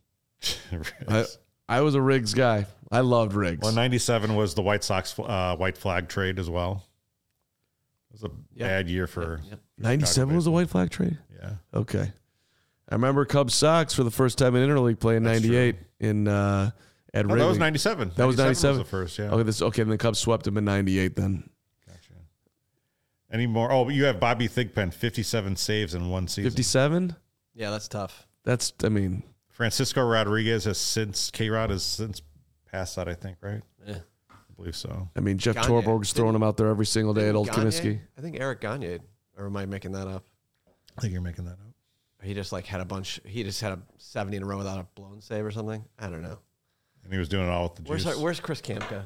Speaker 2: I, I was a Riggs guy. I loved Riggs.
Speaker 1: Well, ninety-seven was the White Sox uh, white flag trade as well. It was a
Speaker 3: Yep.
Speaker 1: bad year for
Speaker 3: Yep.
Speaker 2: ninety-seven was the white flag trade?
Speaker 1: yeah.
Speaker 2: Okay. I remember Cubs Sox for the first time in interleague playing
Speaker 1: That's
Speaker 2: ninety-eight in uh, at
Speaker 1: Oh,
Speaker 2: Wrigley.
Speaker 1: that was ninety-seven.
Speaker 2: That was ninety-seven?
Speaker 1: Was the first, yeah.
Speaker 2: Okay, this, okay, and the Cubs swept him in ninety-eight then.
Speaker 1: Gotcha. Any more? Oh, you have Bobby Thigpen, fifty-seven saves in one season.
Speaker 2: fifty-seven?
Speaker 3: Yeah, that's tough.
Speaker 2: That's, I mean,
Speaker 1: Francisco Rodriguez has since, K-Rod has since passed that, I think, right?
Speaker 3: Yeah.
Speaker 1: I believe so.
Speaker 2: I mean, Jeff
Speaker 3: Gagne.
Speaker 2: Torborg's throwing him out there every single day at Old
Speaker 3: Gagne?
Speaker 2: Comiskey.
Speaker 3: I think Eric Gagne, or am I making that up?
Speaker 1: I think you're making that up.
Speaker 3: He just like had a bunch. He just had a seventy in a row without a blown save or something. I don't know.
Speaker 1: And he was doing it all with the
Speaker 3: Where's
Speaker 1: juice.
Speaker 3: our, Where's Chris Kamka?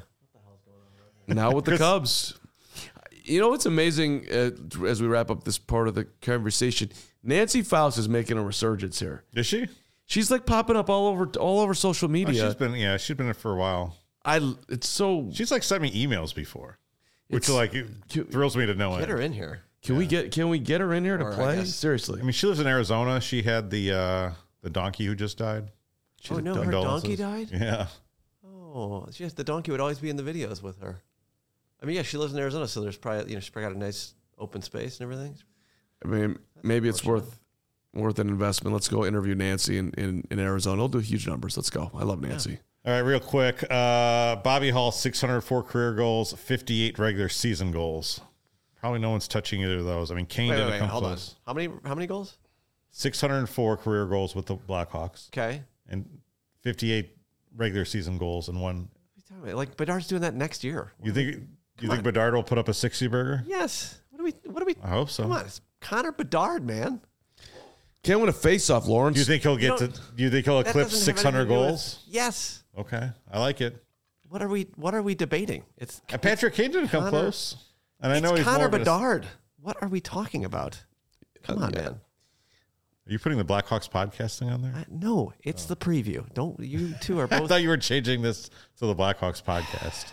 Speaker 2: Now with the
Speaker 1: Chris-
Speaker 2: Cubs. You know what's amazing uh, as we wrap up this part of the conversation? Nancy Faust is making a resurgence here.
Speaker 1: Is she?
Speaker 2: She's like popping up all over all over social
Speaker 1: Oh,
Speaker 2: media.
Speaker 1: she's been, yeah, she's been in it for a while.
Speaker 2: I it's so
Speaker 1: She's like sent me emails before, which
Speaker 2: It's-
Speaker 1: like it thrills me to no
Speaker 3: Get
Speaker 1: end.
Speaker 3: her in here.
Speaker 2: Can we get can we get her in here to
Speaker 3: Or I
Speaker 2: play?
Speaker 3: guess-
Speaker 2: Seriously.
Speaker 1: I mean, she lives in Arizona. She had the uh, the donkey who just died.
Speaker 3: Oh no, her
Speaker 1: Condolences.
Speaker 3: donkey died.
Speaker 1: Yeah.
Speaker 3: Oh, she has, the donkey would always be in the videos with her. I mean, yeah, she lives in Arizona, so there's probably you know she's probably got a nice open space and everything.
Speaker 2: I mean, maybe it's
Speaker 3: unfortunate.
Speaker 2: worth worth an investment. Let's go interview Nancy in, in, in Arizona. He'll do huge numbers. Let's go. I love Nancy.
Speaker 1: All right, real quick. Uh, Bobby Hall, six hundred four career goals, fifty-eight regular season goals. Probably no one's touching either of those. I mean, Kane
Speaker 3: Wait,
Speaker 1: didn't
Speaker 3: wait, wait,
Speaker 1: come
Speaker 3: hold on.
Speaker 1: close.
Speaker 3: How many? How many goals?
Speaker 1: six hundred four career goals with the Blackhawks
Speaker 3: Okay.
Speaker 1: and fifty-eight regular season goals and one.
Speaker 3: What are you talking about? Like Bedard's doing that next year.
Speaker 1: You think? You
Speaker 3: Come
Speaker 1: think
Speaker 3: on.
Speaker 1: Bedard will put up a sixty burger?
Speaker 3: Yes. What are we? What are we?
Speaker 1: I hope so.
Speaker 3: Come on, it's Connor Bedard, man.
Speaker 2: Can't win a face-off, Lawrence.
Speaker 1: Do you think he'll get
Speaker 3: You
Speaker 1: to?
Speaker 3: don't-
Speaker 1: Do you think he'll
Speaker 3: That
Speaker 1: eclipse
Speaker 3: doesn't have
Speaker 1: six hundred
Speaker 3: anything to do with-
Speaker 1: goals?
Speaker 3: Yes.
Speaker 1: Okay, I like it.
Speaker 3: What are we? What are we debating? It's
Speaker 1: And Patrick Kane didn't come
Speaker 3: Connor-
Speaker 1: close, and I
Speaker 3: it's
Speaker 1: know he's
Speaker 3: Connor
Speaker 1: more of a-
Speaker 3: Bedard. What are we talking about? Come on,
Speaker 2: yeah.
Speaker 3: man.
Speaker 1: Are you putting the Blackhawks podcasting on there?
Speaker 3: I, no, it's the preview. Don't you two are
Speaker 1: I
Speaker 3: both.
Speaker 1: thought you were changing this to the Blackhawks podcast.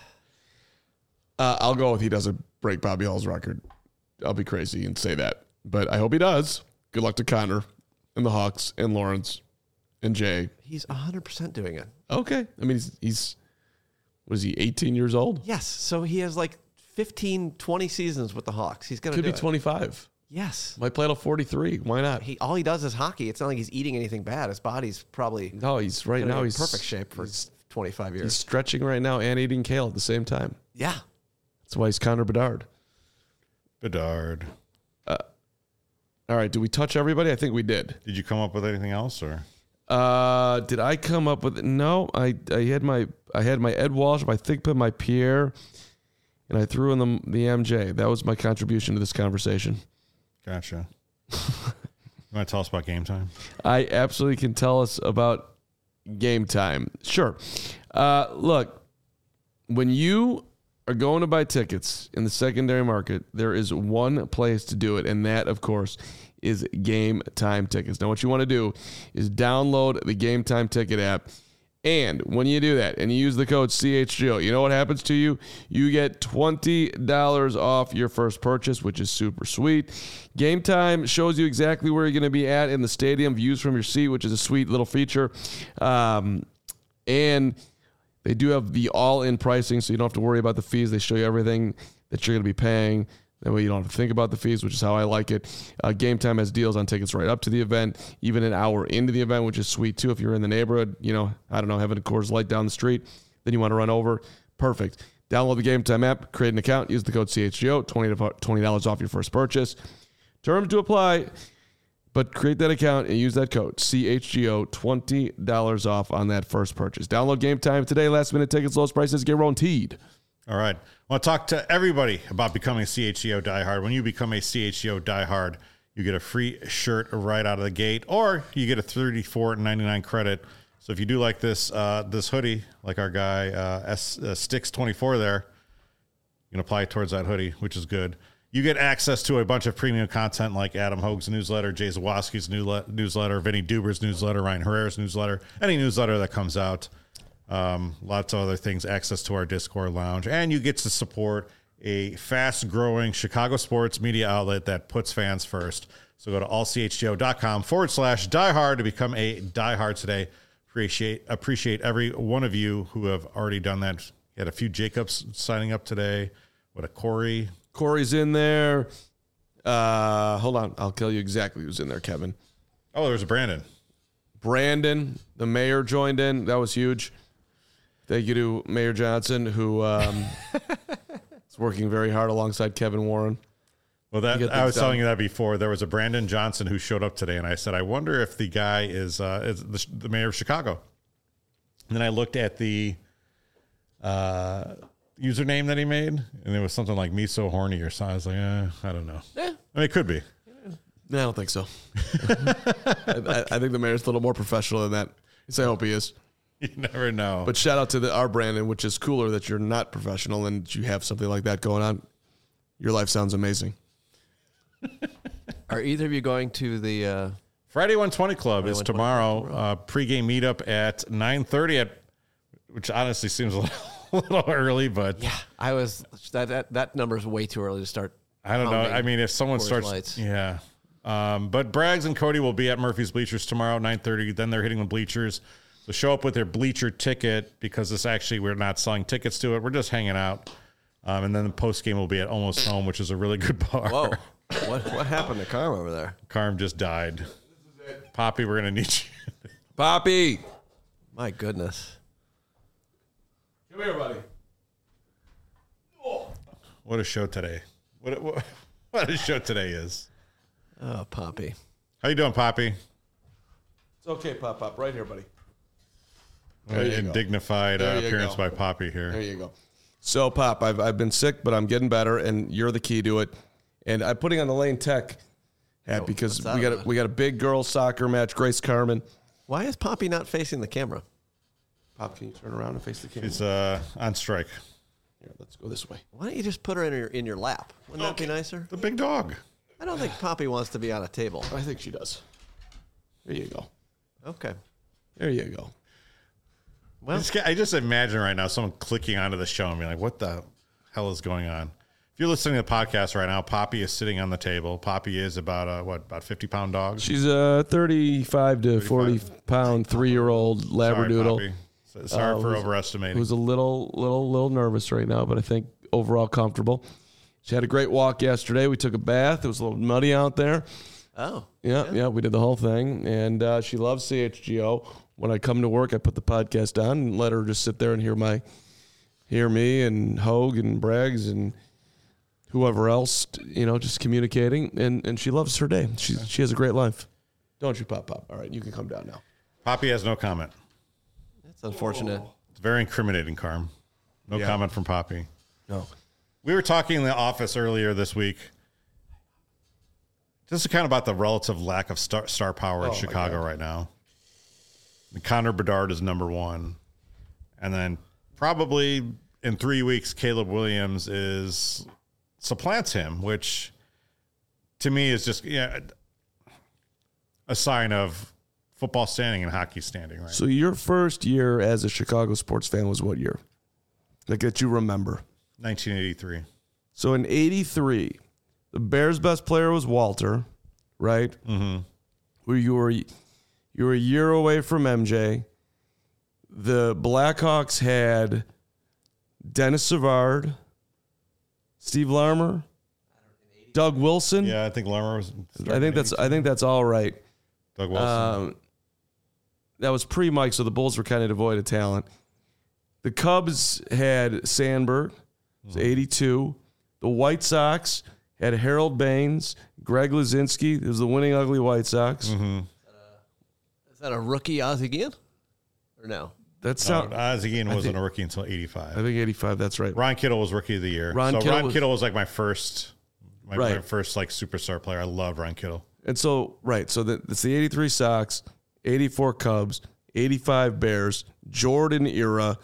Speaker 2: Uh, I'll go with he doesn't break Bobby Hall's record. I'll be crazy and say that. But I hope he does. Good luck to Connor and the Hawks and Lawrence and Jay.
Speaker 3: He's one hundred percent doing it.
Speaker 2: Okay. I mean, he's, he's what is he, eighteen years old?
Speaker 3: Yes. So he has like fifteen, twenty seasons with the Hawks. He's going to
Speaker 2: Could
Speaker 3: do
Speaker 2: be
Speaker 3: it.
Speaker 2: twenty-five.
Speaker 3: Yes.
Speaker 2: Might play till forty-three. Why not?
Speaker 3: He all he does is hockey. It's not like he's eating anything bad. His body's probably
Speaker 2: No, he's right
Speaker 3: gonna
Speaker 2: now.
Speaker 3: be in
Speaker 2: He's
Speaker 3: perfect shape for
Speaker 2: he's,
Speaker 3: twenty-five
Speaker 2: he's
Speaker 3: years.
Speaker 2: stretching right now and eating kale at the same time.
Speaker 3: Yeah.
Speaker 2: That's why he's Connor Bedard.
Speaker 1: Bedard.
Speaker 2: All right. Did we touch everybody? I think we did.
Speaker 1: Did you come up with anything else, or
Speaker 2: Uh, did I come up with no? I I had my I had my Ed Walsh, my Thigpen, my Pierre, and I threw in the the M J. That was my contribution to this conversation.
Speaker 1: gotcha? You want to tell us about Game Time?
Speaker 2: I absolutely can tell us about Game Time. Sure. Uh, look, when you are going to buy tickets in the secondary market, there is one place to do it, and that, of course, is Game Time tickets. Now, what you want to do is download the Game Time ticket app. And when you do that and you use the code C H G O, you know what happens to you? You get twenty dollars off your first purchase, which is super sweet. Game Time shows you exactly where you're going to be at in the stadium, views from your seat, which is a sweet little feature. Um, and they do have the all-in pricing, so you don't have to worry about the fees. They show you everything that you're going to be paying. That way you don't have to think about the fees, which is how I like it. Uh, Game Time has deals on tickets right up to the event, even an hour into the event, which is sweet too. If you're in the neighborhood, you know, I don't know, having a Coors Light down the street, then you want to run over, perfect. Download the Game Time app, create an account, use the code C H G O, twenty dollars off your first purchase. Terms to apply, but create that account and use that code C H G O, twenty dollars off on that first purchase. Download Game Time today. Last minute tickets, lowest prices guaranteed.
Speaker 1: All right. I want to talk to everybody about becoming a C H G O diehard. When you become a C H G O diehard, you get a free shirt right out of the gate, or you get a thirty-four ninety-nine credit. So if you do like this uh, this hoodie, like our guy uh, S, uh, Sticks twenty-four there, you can apply it towards that hoodie, which is good. You get access to a bunch of premium content like Adam Hogue's newsletter, Jay Zawoski's newsletter, Vinny Duber's newsletter, Ryan Herrera's newsletter, any newsletter that comes out. Um, lots of other things, access to our Discord lounge, and you get to support a fast-growing Chicago sports media outlet that puts fans first. So go to allchgo.com forward slash diehard to become a diehard today. Appreciate appreciate every one of you who have already done that. You had a few Jacobs signing up today. What a Corey.
Speaker 2: Corey's in there. Uh, hold on. I'll tell you exactly who's in there, Kevin.
Speaker 1: Oh, there's a Brandon.
Speaker 2: Brandon, the mayor, joined in. That was huge. Thank you to Mayor Johnson, who um, is working very hard alongside Kevin Warren.
Speaker 1: Well, that I was done. telling you that before. There was a Brandon Johnson who showed up today, and I said, I wonder if the guy is, uh, is the, the mayor of Chicago. And then I looked at the uh, username that he made, and it was something like "me so horny" or something. I was like, eh, I don't know. Yeah. I mean, it could be.
Speaker 2: No, I don't think so. I, I think the mayor's a little more professional than that. Yes, I hope he is.
Speaker 1: You never know.
Speaker 2: But shout out to the, our Brandon, which is cooler that you're not professional and you have something like that going on. Your life sounds amazing.
Speaker 3: Are either of you going to the uh,
Speaker 1: Friday one twenty Club? Friday is tomorrow. Uh, pregame meetup at nine thirty, at which honestly seems a little, a little early, but
Speaker 3: yeah, I was that that, that number is way too early to start.
Speaker 1: I don't know. I mean, if someone starts, lights. yeah. Um, but Braggs and Cody will be at Murphy's Bleachers tomorrow at nine thirty. Then they're hitting the bleachers. So show up with their bleacher ticket, because this actually, we're not selling tickets to it. We're just hanging out. Um, and then the post game will be at Almost Home, which is a really good bar.
Speaker 3: Whoa. What what happened to Carm over there?
Speaker 1: Carm just died. Poppy, we're going to need you.
Speaker 2: Poppy.
Speaker 3: My goodness.
Speaker 2: Come here, buddy.
Speaker 1: Oh. What a show today. What, what, what a show today is.
Speaker 3: Oh, Poppy.
Speaker 1: How you doing, Poppy?
Speaker 2: It's okay, Pop Pop. Right here, buddy.
Speaker 1: And dignified uh, appearance go. by Poppy here.
Speaker 2: There you go. So, Pop, I've I've been sick, but I'm getting better, and you're the key to it. And I'm putting on the Lane Tech hat oh, because we got a, we got a big girls soccer match. Grace Carmen.
Speaker 3: Why is Poppy not facing the camera?
Speaker 2: Pop, can you turn around and face the camera?
Speaker 1: She's uh, on strike.
Speaker 2: Here, let's go this way.
Speaker 3: Why don't you just put her in your in your lap? Wouldn't okay. that be nicer?
Speaker 1: The big dog.
Speaker 3: I don't think Poppy wants to be on a table.
Speaker 2: I think she does. There you go.
Speaker 3: Okay.
Speaker 2: There you go.
Speaker 1: Well, I just, I just imagine right now someone clicking onto the show and being like, what the hell is going on? If you're listening to the podcast right now, Poppy is sitting on the table. Poppy is about a, what, about fifty-pound dog?
Speaker 2: She's a thirty-five to forty-pound three-year-old Labradoodle.
Speaker 1: Sorry, Sorry uh, for overestimating.
Speaker 2: Who's a little, little, little nervous right now, but I think overall comfortable. She had a great walk yesterday. We took a bath. It was a little muddy out there.
Speaker 3: Oh.
Speaker 2: Yeah, yeah, yeah we did the whole thing. And uh, she loves C H G O. When I come to work, I put the podcast on and let her just sit there and hear my, hear me and Hogue and Braggs and whoever else, you know, just communicating. And, and she loves her day. She okay. she has a great life. Don't you, Pop Pop? All right, you can come down now.
Speaker 1: Poppy has no comment.
Speaker 3: That's unfortunate.
Speaker 1: Oh. It's very incriminating, Carm. No yeah. comment from Poppy.
Speaker 2: No.
Speaker 1: We were talking in the office earlier this week. This is kind of about the relative lack of star, star power in
Speaker 2: Oh, my
Speaker 1: Chicago
Speaker 2: God.
Speaker 1: right now. And Connor Bedard is number one. And then probably in three weeks, Caleb Williams is supplants him, which to me is just yeah, a sign of football standing and hockey standing, right?
Speaker 2: So your first year as a Chicago sports fan was what year? Like that you remember?
Speaker 1: nineteen eighty-three.
Speaker 2: So in eighty-three, the Bears' best player was Walter, right?
Speaker 1: Mm-hmm.
Speaker 2: Where you were you were a year away from M J. The Blackhawks had Dennis Savard, Steve Larmer, Doug Wilson.
Speaker 1: Yeah, I think Larmer was.
Speaker 2: I think that's I think that's all right.
Speaker 1: Doug Wilson.
Speaker 2: Um, that was pre-Mike, so the Bulls were kind of devoid of talent. The Cubs had Sandberg, it was eighty-two. The White Sox had Harold Baines, Greg Luzinski. It was the winning ugly White Sox.
Speaker 1: mm-hmm.
Speaker 3: Is that a rookie Ozzie Guillen? Or no?
Speaker 2: That's
Speaker 1: No,
Speaker 2: not.
Speaker 1: Ozzie Guillen wasn't
Speaker 2: think-
Speaker 1: a rookie until eighty-five.
Speaker 2: I think eighty-five. That's right.
Speaker 1: Ron Kittle was rookie of the year.
Speaker 2: Ron
Speaker 1: so
Speaker 2: Kittle
Speaker 1: Ron
Speaker 2: was-
Speaker 1: Kittle was like my first, my,
Speaker 2: Right.
Speaker 1: my first like superstar player. I loved Ron Kittle.
Speaker 2: And so, right. So the, it's the eighty-three Sox, eighty-four Cubs, eighty-five Bears, Jordan era.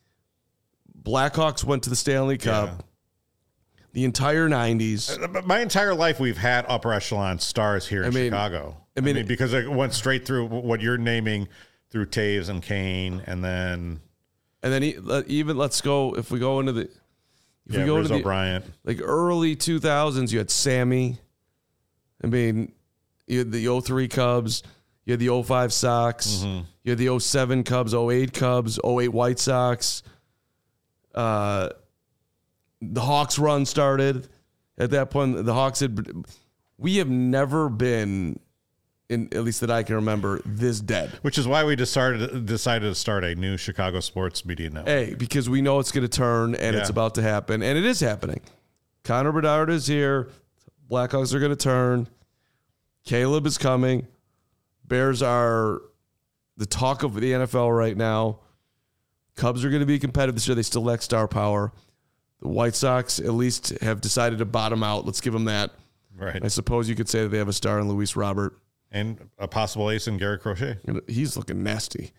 Speaker 2: Blackhawks went to the Stanley Cup.
Speaker 1: Yeah.
Speaker 2: The entire nineties.
Speaker 1: But my entire life, we've had upper echelon stars here in
Speaker 2: I mean-
Speaker 1: Chicago.
Speaker 2: I mean-
Speaker 1: because it went straight through what you're naming through Taves and Kane, and then
Speaker 2: And then e- let- even let's go if we go into the if
Speaker 1: yeah,
Speaker 2: we go
Speaker 1: Riz
Speaker 2: into the
Speaker 1: O'Brien.
Speaker 2: like early two thousands, you had Sammy. I mean, you had the oh three Cubs, you had the oh five Sox,
Speaker 1: Mm-hmm.
Speaker 2: you had the oh seven Cubs, oh eight Cubs, oh eight White Sox. Uh, the Hawks run started at that point. The Hawks had. We have never been, in at least that I can remember, this dead.
Speaker 1: Which is why we decided decided to start a new Chicago sports media network.
Speaker 2: A, because we know it's going to turn and
Speaker 1: Yeah.
Speaker 2: it's about to happen, and it is happening. Connor Bedard is here. Blackhawks are going to turn. Caleb is coming. Bears are the talk of the N F L right now. Cubs are going to be competitive this year. They still lack star power. The White Sox at least have decided to bottom out. Let's give them that.
Speaker 1: Right.
Speaker 2: I suppose you could say that they have a star in Luis Robert.
Speaker 1: And a possible ace in Gary Crochet.
Speaker 2: And he's looking nasty.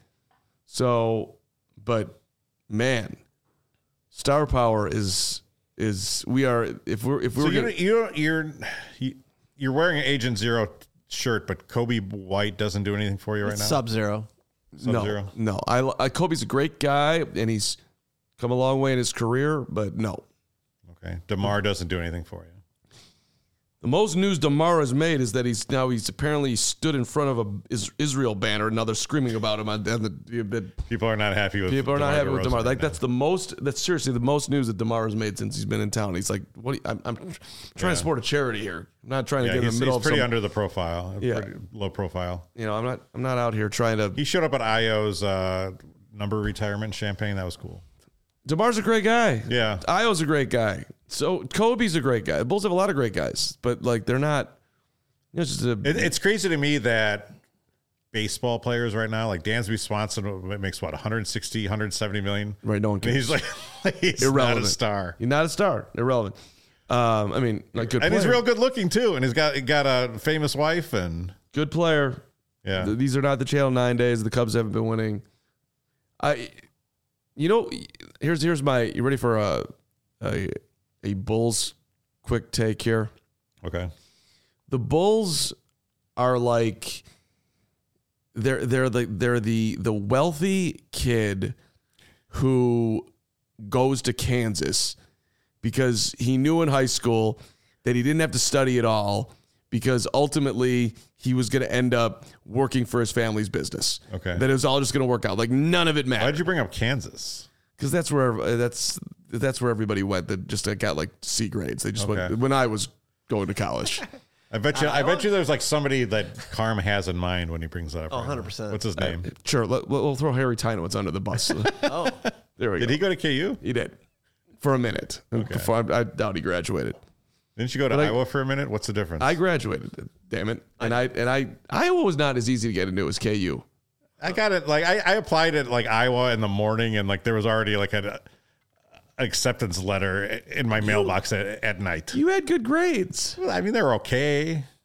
Speaker 2: So, but man, star power is is we are if we're if
Speaker 1: So
Speaker 2: we're
Speaker 1: you're,
Speaker 2: gonna,
Speaker 1: you're you're you're wearing an Agent Zero shirt, but Kobe White doesn't do anything for you right now.
Speaker 3: Sub Zero.
Speaker 2: no
Speaker 1: Sub-Zero?
Speaker 2: no I, I Kobe's a great guy and he's come a long way in his career, but no.
Speaker 1: Okay. DeMar doesn't do anything for you.
Speaker 2: The most news DeMar has made is that he's now he's apparently stood in front of a Is- Israel banner and now they're screaming about him on, on the, the
Speaker 1: People are not happy with.
Speaker 2: people are not
Speaker 1: DeMar
Speaker 2: happy with
Speaker 1: DeRozan
Speaker 2: DeMar.
Speaker 1: right
Speaker 2: Like
Speaker 1: now.
Speaker 2: that's the most that's seriously the most news that DeMar has made since he's been in town. He's like, what? do you- I'm, I'm trying
Speaker 1: Yeah.
Speaker 2: to support a charity here. I'm not trying to
Speaker 1: Yeah,
Speaker 2: get in
Speaker 1: he's,
Speaker 2: the middle
Speaker 1: he's
Speaker 2: of
Speaker 1: pretty
Speaker 2: some.
Speaker 1: under the profile.
Speaker 2: Yeah.
Speaker 1: Pretty low profile.
Speaker 2: You know, I'm not. I'm not out here trying to.
Speaker 1: He showed up at I O's uh, number retirement champagne. That was cool.
Speaker 2: DeMar's a great guy.
Speaker 1: Yeah.
Speaker 2: Io's a great guy. So Kobe's a great guy. The Bulls have a lot of great guys, but like they're not. You know, it's just a,
Speaker 1: It, it's crazy to me that baseball players right now, like Dansby Swanson, makes what, one sixty, one seventy million?
Speaker 2: right. No one
Speaker 1: And
Speaker 2: cares.
Speaker 1: he's like, he's
Speaker 2: Irrelevant.
Speaker 1: not a star.
Speaker 2: You're not a star. Irrelevant. Um, I mean, like good.
Speaker 1: And
Speaker 2: player.
Speaker 1: he's real good looking too. And he's got he got a famous wife. And
Speaker 2: Good player.
Speaker 1: yeah.
Speaker 2: Th- These are not the Channel Nine days. The Cubs haven't been winning. I, you know, here's here's my. You ready for a a, a Bulls quick take here?
Speaker 1: Okay.
Speaker 2: The Bulls are like they're they're the they're the the wealthy kid who goes to Kansas because he knew in high school that he didn't have to study at all because ultimately he was going to end up working for his family's business.
Speaker 1: Okay.
Speaker 2: That it was all just going to work out. Like none of it mattered.
Speaker 1: Why'd you bring up Kansas?
Speaker 2: Because that's where that's that's where everybody went that just got like C grades. They just
Speaker 1: Okay.
Speaker 2: went when I was going to college.
Speaker 1: I bet you. I bet you. There's like somebody that Carm has in mind when he brings that up.
Speaker 3: Oh,
Speaker 1: right now.
Speaker 3: one hundred percent.
Speaker 1: What's his name?
Speaker 2: Sure, let, we'll throw Harry Tynowitz under the bus.
Speaker 3: Oh,
Speaker 2: There we
Speaker 1: Did
Speaker 2: go.
Speaker 1: he go to K U?
Speaker 2: He did for a minute. Before I, I doubt he graduated.
Speaker 1: Didn't you go to
Speaker 2: But I-
Speaker 1: Iowa for a minute? What's the difference?
Speaker 2: I graduated. Damn it! And I and I Iowa was not as easy to get into as K U.
Speaker 1: I got it. Like I, I applied at like Iowa in the morning, and like there was already like an acceptance letter in my mailbox at, at night.
Speaker 2: You had good grades.
Speaker 1: Well, I mean, they were okay.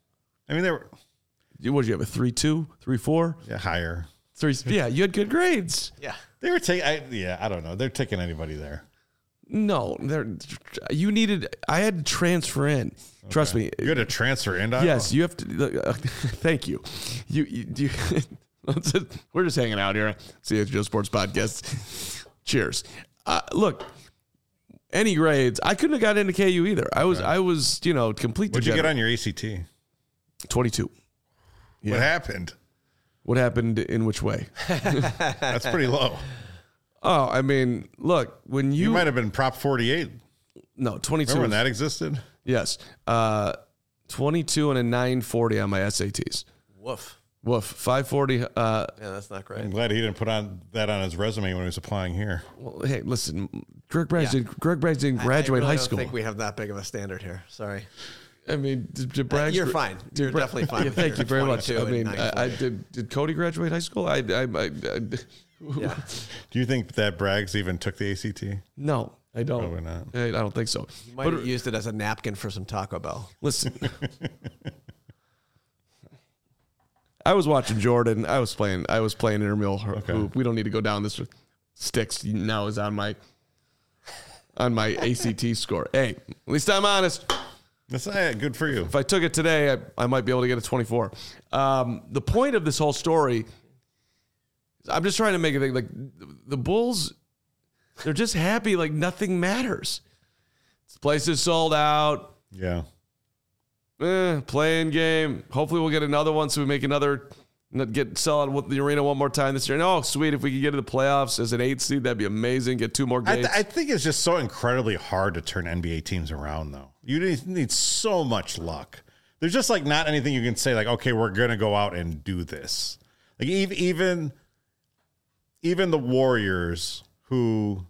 Speaker 1: I mean, they were.
Speaker 2: What did you have? A three two, three four,
Speaker 1: Yeah, higher.
Speaker 2: three. Yeah, you had good grades.
Speaker 3: Yeah.
Speaker 1: They were taking. Yeah, I don't know. They're taking anybody there.
Speaker 2: No, they're. You needed. I had to transfer in. Okay. Trust me.
Speaker 1: You had to transfer in.
Speaker 2: Yes, you have to. Uh, thank you. You. you, you we're just hanging out here. C H G O Sports Podcast. Cheers. Uh, look. Any grades, I couldn't have got into K U either. I was, right. I was, you know, complete.
Speaker 1: What'd degenerate. You get on your A C T?
Speaker 2: twenty-two. Yeah.
Speaker 1: What happened?
Speaker 2: What happened in which way?
Speaker 1: That's pretty low.
Speaker 2: Oh, I mean, look, when you...
Speaker 1: You might have been Prop forty-eight.
Speaker 2: No, twenty-two.
Speaker 1: Remember when that existed?
Speaker 2: Yes. Uh, twenty-two and a nine forty on my S A Ts.
Speaker 3: Woof.
Speaker 2: Woof. five forty. Uh,
Speaker 3: yeah, that's not great.
Speaker 1: I'm glad he didn't put on that on his resume when he was applying here.
Speaker 2: Well, hey, listen, Greg Braggs, yeah. did, Greg Braggs didn't graduate
Speaker 3: I, I really
Speaker 2: high school.
Speaker 3: I don't think we have that big of a standard here. Sorry.
Speaker 2: I mean, did, did Braggs,
Speaker 3: You're fine. You're Bra- definitely fine.
Speaker 2: Yeah, thank you very much. I mean, I, I did. Did Cody graduate high school? I. I, I, I
Speaker 3: yeah.
Speaker 1: Do you think that Braggs even took the A C T?
Speaker 2: No, I don't.
Speaker 1: Probably not.
Speaker 2: I, I don't think so.
Speaker 3: You might but, have used it as a napkin for some Taco Bell.
Speaker 2: Listen. I was watching Jordan. I was playing. I was playing intramural okay. hoop. We don't need to go down this. Sticks now is on my on my A C T score. Hey, at least I'm honest.
Speaker 1: That's not good for you.
Speaker 2: If I took it today, I, I might be able to get a twenty-four. Um, the point of this whole story, I'm just trying to make it think like the Bulls. They're just happy, like nothing matters. This place is sold out.
Speaker 1: Yeah.
Speaker 2: Eh, playing game. Hopefully we'll get another one so we make another, get sell out the arena one more time this year. And oh, sweet, if we could get to the playoffs as an eight seed, that'd be amazing. Get two more games.
Speaker 1: I, th- I think it's just so incredibly hard to turn N B A teams around, though. You need, need so much luck. There's just like not anything you can say like, okay, we're going to go out and do this. Like even, even, even the Warriors who,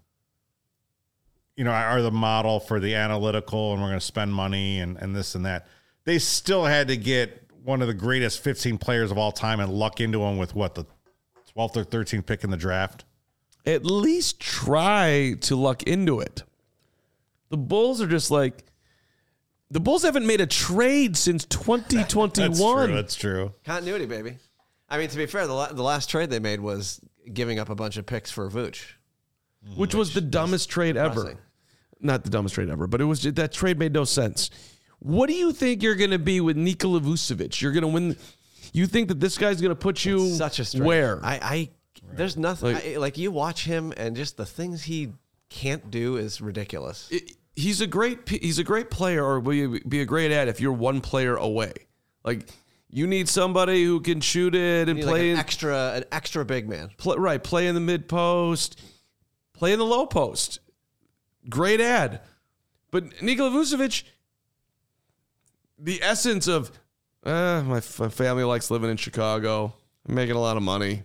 Speaker 1: you know, are the model for the analytical and we're going to spend money and, and this and that. They still had to get one of the greatest fifteen players of all time and luck into them with what, the twelfth or thirteenth pick in the draft?
Speaker 2: At least try to luck into it. The Bulls are just like, the Bulls haven't made a trade since twenty twenty-one.
Speaker 1: That's true. That's true.
Speaker 3: Continuity, baby. I mean, to be fair, the, la- the last trade they made was giving up a bunch of picks for Vooch.
Speaker 2: Which, which was the dumbest trade depressing. ever. Not the dumbest trade ever, but it was that trade made no sense. What do you think you're going to be with Nikola Vucevic? You're going to win. You think that this guy's going to put you
Speaker 3: it's such a stretch.
Speaker 2: Where?
Speaker 3: I, I right. There's nothing. Like, I, like you watch him and just the things he can't do is ridiculous.
Speaker 2: It, he's a great. He's a great player, or will you be a great ad if you're one player away? Like you need somebody who can shoot it and play
Speaker 3: like an
Speaker 2: in,
Speaker 3: extra, an extra big man.
Speaker 2: Play, right, play in the mid post, play in the low post. Great ad, but Nikola Vucevic. The essence of, uh, my, f- my family likes living in Chicago. I'm making a lot of money.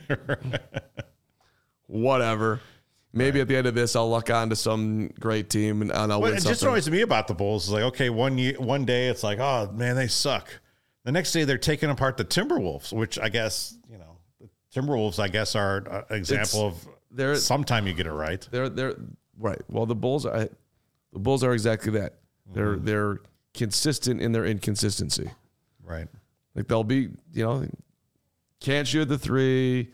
Speaker 2: Whatever. Maybe right. at the end of this, I'll luck onto some great team and, and I'll
Speaker 1: well,
Speaker 2: win
Speaker 1: it
Speaker 2: something.
Speaker 1: just annoys me about the Bulls is like, okay, one year, one day it's like, oh man, they suck. The next day they're taking apart the Timberwolves, which I guess you know, the Timberwolves I guess are an example it's, of they're, sometime you get it right.
Speaker 2: They're they're right. Well, the Bulls are the Bulls are exactly that. They're mm-hmm. they're. consistent in their inconsistency.
Speaker 1: Right.
Speaker 2: Like they'll be, you know, can't shoot the three,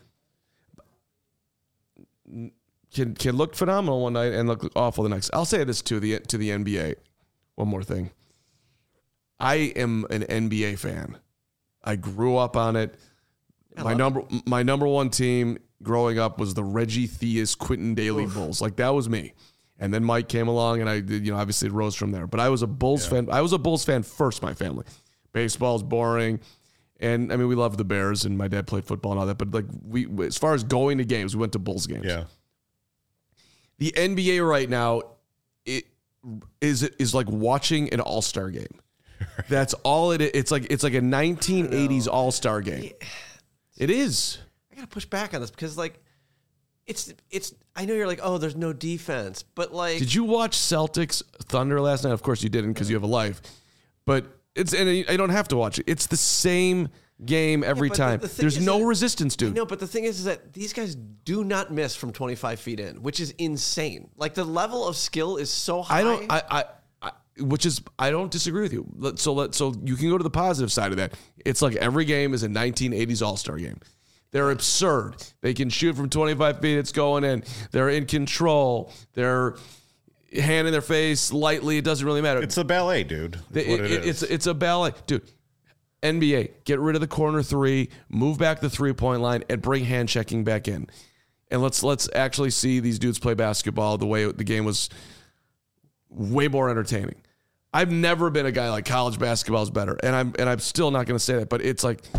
Speaker 2: can can look phenomenal one night and look awful the next. I'll say this to the to the N B A. One more thing. I am an N B A fan. I grew up on it. I my number it. my number one team growing up was the Reggie Theus Quentin Daly Oof. Bulls. Like that was me. And then Mike came along, and I did, you know, obviously it rose from there. But I was a Bulls yeah. fan. I was a Bulls fan first. My family, baseball's boring, and I mean we loved the Bears, and my dad played football and all that. But like we, as far as going to games, we went to Bulls games.
Speaker 1: Yeah.
Speaker 2: The N B A right now, it is is like watching an All Star game. That's all it is. It's like it's like a nineteen eighties All Star game. It is.
Speaker 3: I gotta push back on this because like. It's it's. I know you're like, oh, there's no defense, but like,
Speaker 2: did you watch Celtics Thunder last night? Of course you didn't because you have a life, but it's and I don't have to watch it. It's the same game every yeah, time. The, the there's no that, resistance, dude.
Speaker 3: No, but the thing is, is that these guys do not miss from twenty-five feet in, which is insane. Like the level of skill is so high.
Speaker 2: I don't. I I which is, I don't disagree with you. Let- So let so you can go to the positive side of that. It's like every game is a nineteen eighties All-Star game. They're absurd. They can shoot from twenty-five feet. It's going in. They're in control. They're hand in their face lightly. It doesn't really matter.
Speaker 1: It's a ballet, dude. That's
Speaker 2: It-
Speaker 1: what it
Speaker 2: it-
Speaker 1: is.
Speaker 2: It's it's a ballet, dude. N B A, get rid of the corner three, move back the three point line, and bring hand checking back in, and let's let's actually see these dudes play basketball the way the game was way more entertaining. I've never been a guy like college basketball is better, and I'm and I'm still not going to say that, but it's like,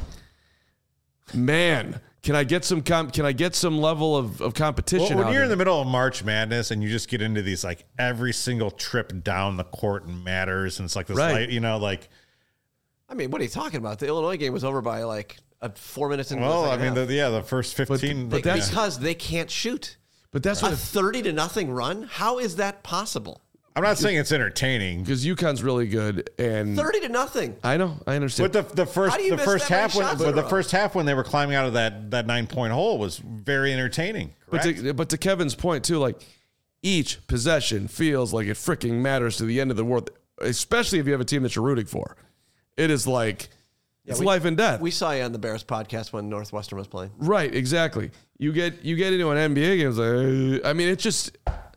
Speaker 2: man, can I get some com- can I get some level of, of competition?
Speaker 1: Well, when
Speaker 2: out
Speaker 1: you're
Speaker 2: here?
Speaker 1: in the middle of March Madness and you just get into these, like every single trip down the court matters, and it's like this,
Speaker 2: Right.
Speaker 1: light, you know, like.
Speaker 3: I mean, what are you talking about? The Illinois game was over by like uh, four minutes into
Speaker 1: Well,
Speaker 3: the
Speaker 1: I
Speaker 3: second
Speaker 1: mean,
Speaker 3: half.
Speaker 1: the, yeah, the first fifteen.
Speaker 2: but
Speaker 3: They-
Speaker 2: that's-
Speaker 3: because they can't shoot.
Speaker 2: but that's
Speaker 3: A
Speaker 2: what
Speaker 3: thirty to nothing run? How is that possible?
Speaker 1: I'm not saying it's entertaining,
Speaker 2: because UConn's really good, and
Speaker 3: Thirty to nothing.
Speaker 2: I know I understand.
Speaker 1: but the the first
Speaker 3: How do you
Speaker 1: the
Speaker 3: miss
Speaker 1: first
Speaker 3: that many
Speaker 1: half when
Speaker 3: shots
Speaker 1: but
Speaker 3: in a
Speaker 1: the
Speaker 3: row?
Speaker 1: first half when they were climbing out of that that nine point hole was very entertaining.
Speaker 2: But
Speaker 1: Correct?
Speaker 2: to, but to Kevin's point too, like each possession feels like it freaking matters to the end of the world, especially if you have a team that you're rooting for. It is like it's
Speaker 3: we-
Speaker 2: life and death.
Speaker 3: We saw you on the Bears podcast when Northwestern was playing.
Speaker 2: Right, exactly. You get you get into an N B A game, it's like, uh, I mean, it's just,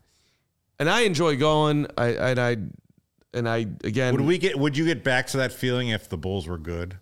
Speaker 2: and I enjoy going. I and I and I again.
Speaker 1: would we get? Would you get back to that feeling if the Bulls were good?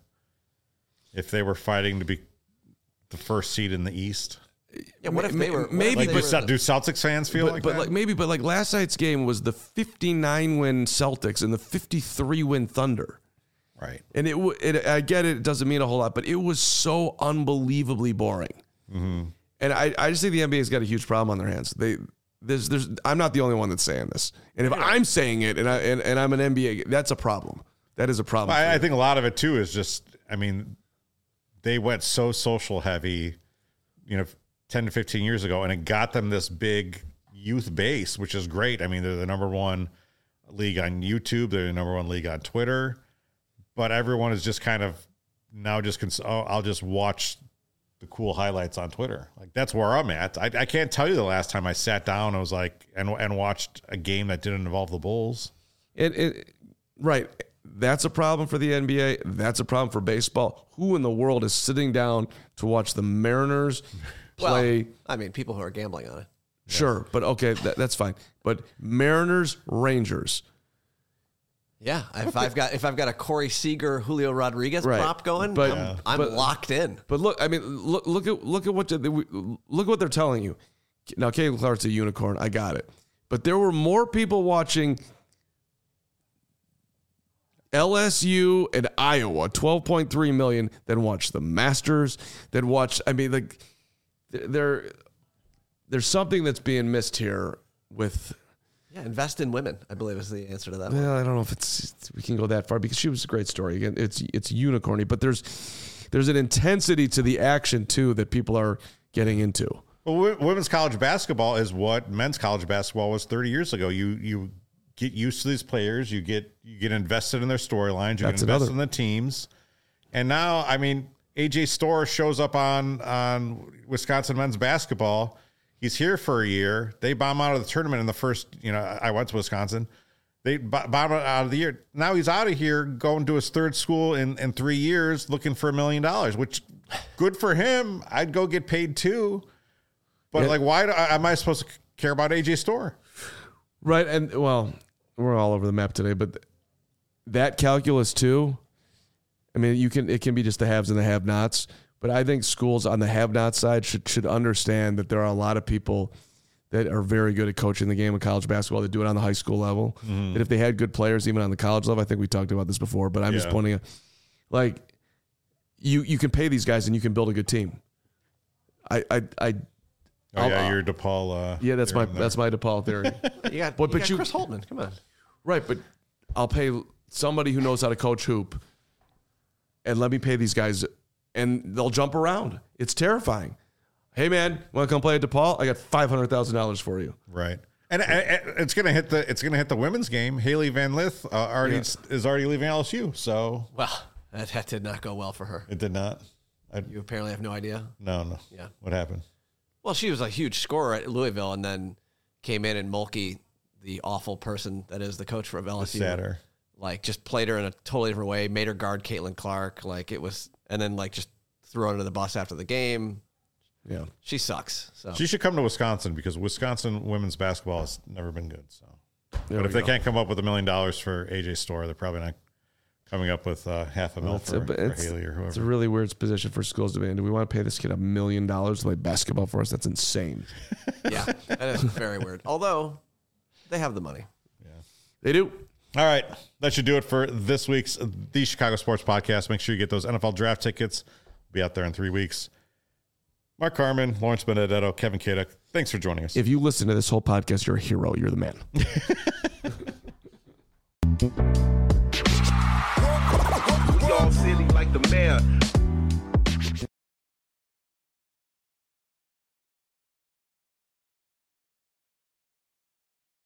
Speaker 1: If they were fighting to be the first seed in the East?
Speaker 3: Yeah, what if they were? what if
Speaker 2: maybe,
Speaker 3: they
Speaker 1: Like,
Speaker 3: were
Speaker 1: do, do Celtics fans feel
Speaker 2: but,
Speaker 1: like
Speaker 2: but
Speaker 1: that?
Speaker 2: like maybe, but like last night's game was the fifty-nine win Celtics and the fifty-three win Thunder.
Speaker 1: right.
Speaker 2: And it, w- it, I get it, it doesn't mean a whole lot, but it was so unbelievably boring.
Speaker 1: Mm-hmm.
Speaker 2: And I, I just think the N B A's got a huge problem on their hands. They, there's, there's, I'm not the only one that's saying this. And if I'm saying it, and I, and, and I'm an N B A, that's a problem. That is a problem. for
Speaker 1: I, I
Speaker 2: me.
Speaker 1: think a lot of it too is just, I mean, they went so social heavy, you know, ten to fifteen years ago, and it got them this big youth base, which is great. I mean, they're the number one league on YouTube. They're the number one league on Twitter, but everyone is just kind of now just, cons- oh, I'll just watch the cool highlights on Twitter. Like that's where I'm at. I, I can't tell you the last time I sat down, I was like, and, and watched a game that didn't involve the Bulls.
Speaker 2: It, it, right. That's a problem for the N B A. That's a problem for baseball. Who in the world is sitting down to watch the Mariners play?
Speaker 3: Well, I mean, people who are gambling on it.
Speaker 2: Sure, but okay, that, that's fine. But Mariners, Rangers.
Speaker 3: Yeah, if I've got if I've got a Corey Seager, Julio Rodriguez
Speaker 2: Right.
Speaker 3: prop going,
Speaker 2: But-
Speaker 3: I'm, I'm
Speaker 2: but-
Speaker 3: locked in.
Speaker 2: But look, I mean, look, look at look at what they- look at what they're telling you. Now, Caitlin Clark's a unicorn. I got it. But there were more people watching L S U and Iowa, twelve point three million, than watched the Masters, than watched. I mean, like there, there's something that's being missed here with.
Speaker 3: Yeah, invest in women, I believe is the answer to that one.
Speaker 2: Well, I don't know if it's we can go that far because she was a great story. Again, it's it's unicorny, but there's there's an intensity to the action too that people are getting into.
Speaker 1: Well, wo- women's college basketball is what men's college basketball was thirty years ago. You you get used to these players, you get you get invested in their storylines, you
Speaker 2: That's
Speaker 1: get invested
Speaker 2: another-
Speaker 1: in the teams, and now I mean A J Storr shows up on on Wisconsin men's basketball. He's here for a year. They bomb out of the tournament in the first. You know, I went to Wisconsin. They b- bomb out of the year. Now he's out of here, going to his third school in in three years, looking for a million dollars. Which, good for him. I'd go get paid too. But
Speaker 2: Yeah.
Speaker 1: like, why do, am I supposed to care about A J Storr?
Speaker 2: Right, and well, we're all over the map today, but that calculus too. I mean, you can it can be just the haves and the have-nots, but I think schools on the have-not side should should understand that there are a lot of people that are very good at coaching the game of college basketball that do it on the high school level.
Speaker 1: Mm-hmm.
Speaker 2: That if they had good players even on the college level, I think we talked about this before, but I'm just
Speaker 1: Yeah.
Speaker 2: pointing out, like you you can pay these guys and you can build a good team. I I I
Speaker 1: Oh
Speaker 2: I'll-
Speaker 1: yeah,
Speaker 2: I'll-
Speaker 1: you're DePaul. Uh,
Speaker 2: yeah, that's my
Speaker 1: theorem there.
Speaker 2: that's my DePaul theory.
Speaker 3: You got,
Speaker 2: But-
Speaker 3: you
Speaker 2: but
Speaker 3: got
Speaker 2: you-
Speaker 3: Chris Holtman. Come on.
Speaker 2: Right, but I'll pay somebody who knows how to coach hoop and let me pay these guys and they'll jump around. It's terrifying. Hey man, want to come play at DePaul? I got five hundred thousand dollars for you.
Speaker 1: right. And uh, uh, it's gonna hit the it's gonna hit the women's game. Haley Van Lith uh, already
Speaker 2: Yeah.
Speaker 1: is already leaving L S U, so
Speaker 3: Well, that, that did not go well for her.
Speaker 1: it did not. I,
Speaker 3: You apparently have no idea.
Speaker 1: no, no.
Speaker 3: Yeah.
Speaker 1: What happened?
Speaker 3: Well, she was a huge scorer at Louisville and then came in and Mulkey the awful person that is the coach for L S U.
Speaker 1: Sadder.
Speaker 3: Like, just played her in a totally different way, made her guard Caitlin Clark. Like, it was, and then, like, just threw her under the bus after the game.
Speaker 2: Yeah.
Speaker 3: She sucks. So
Speaker 1: She should come to Wisconsin because Wisconsin women's basketball has never been good. So,
Speaker 2: There
Speaker 1: but
Speaker 2: we
Speaker 1: if they
Speaker 2: go.
Speaker 1: can't come up with a million dollars for A J Storr, they're probably not coming up with uh, half a mil
Speaker 2: It's
Speaker 1: for,
Speaker 2: a,
Speaker 1: for
Speaker 2: it's,
Speaker 1: Haley or
Speaker 2: it's a
Speaker 1: whoever.
Speaker 2: really weird position for schools to be in. Do we want to pay this kid a million dollars to play basketball for us? That's insane.
Speaker 3: yeah, that is very weird. Although they have the money.
Speaker 2: They do.
Speaker 1: All right, that should do it for this week's The Chicago Sports Podcast. Make sure you get those N F L draft tickets. We'll be out there in three weeks. Mark Carman, Lawrence Benedetto, Kevin Kaduk, thanks for joining us.
Speaker 2: If you listen to this whole podcast, you're a hero. You're the man.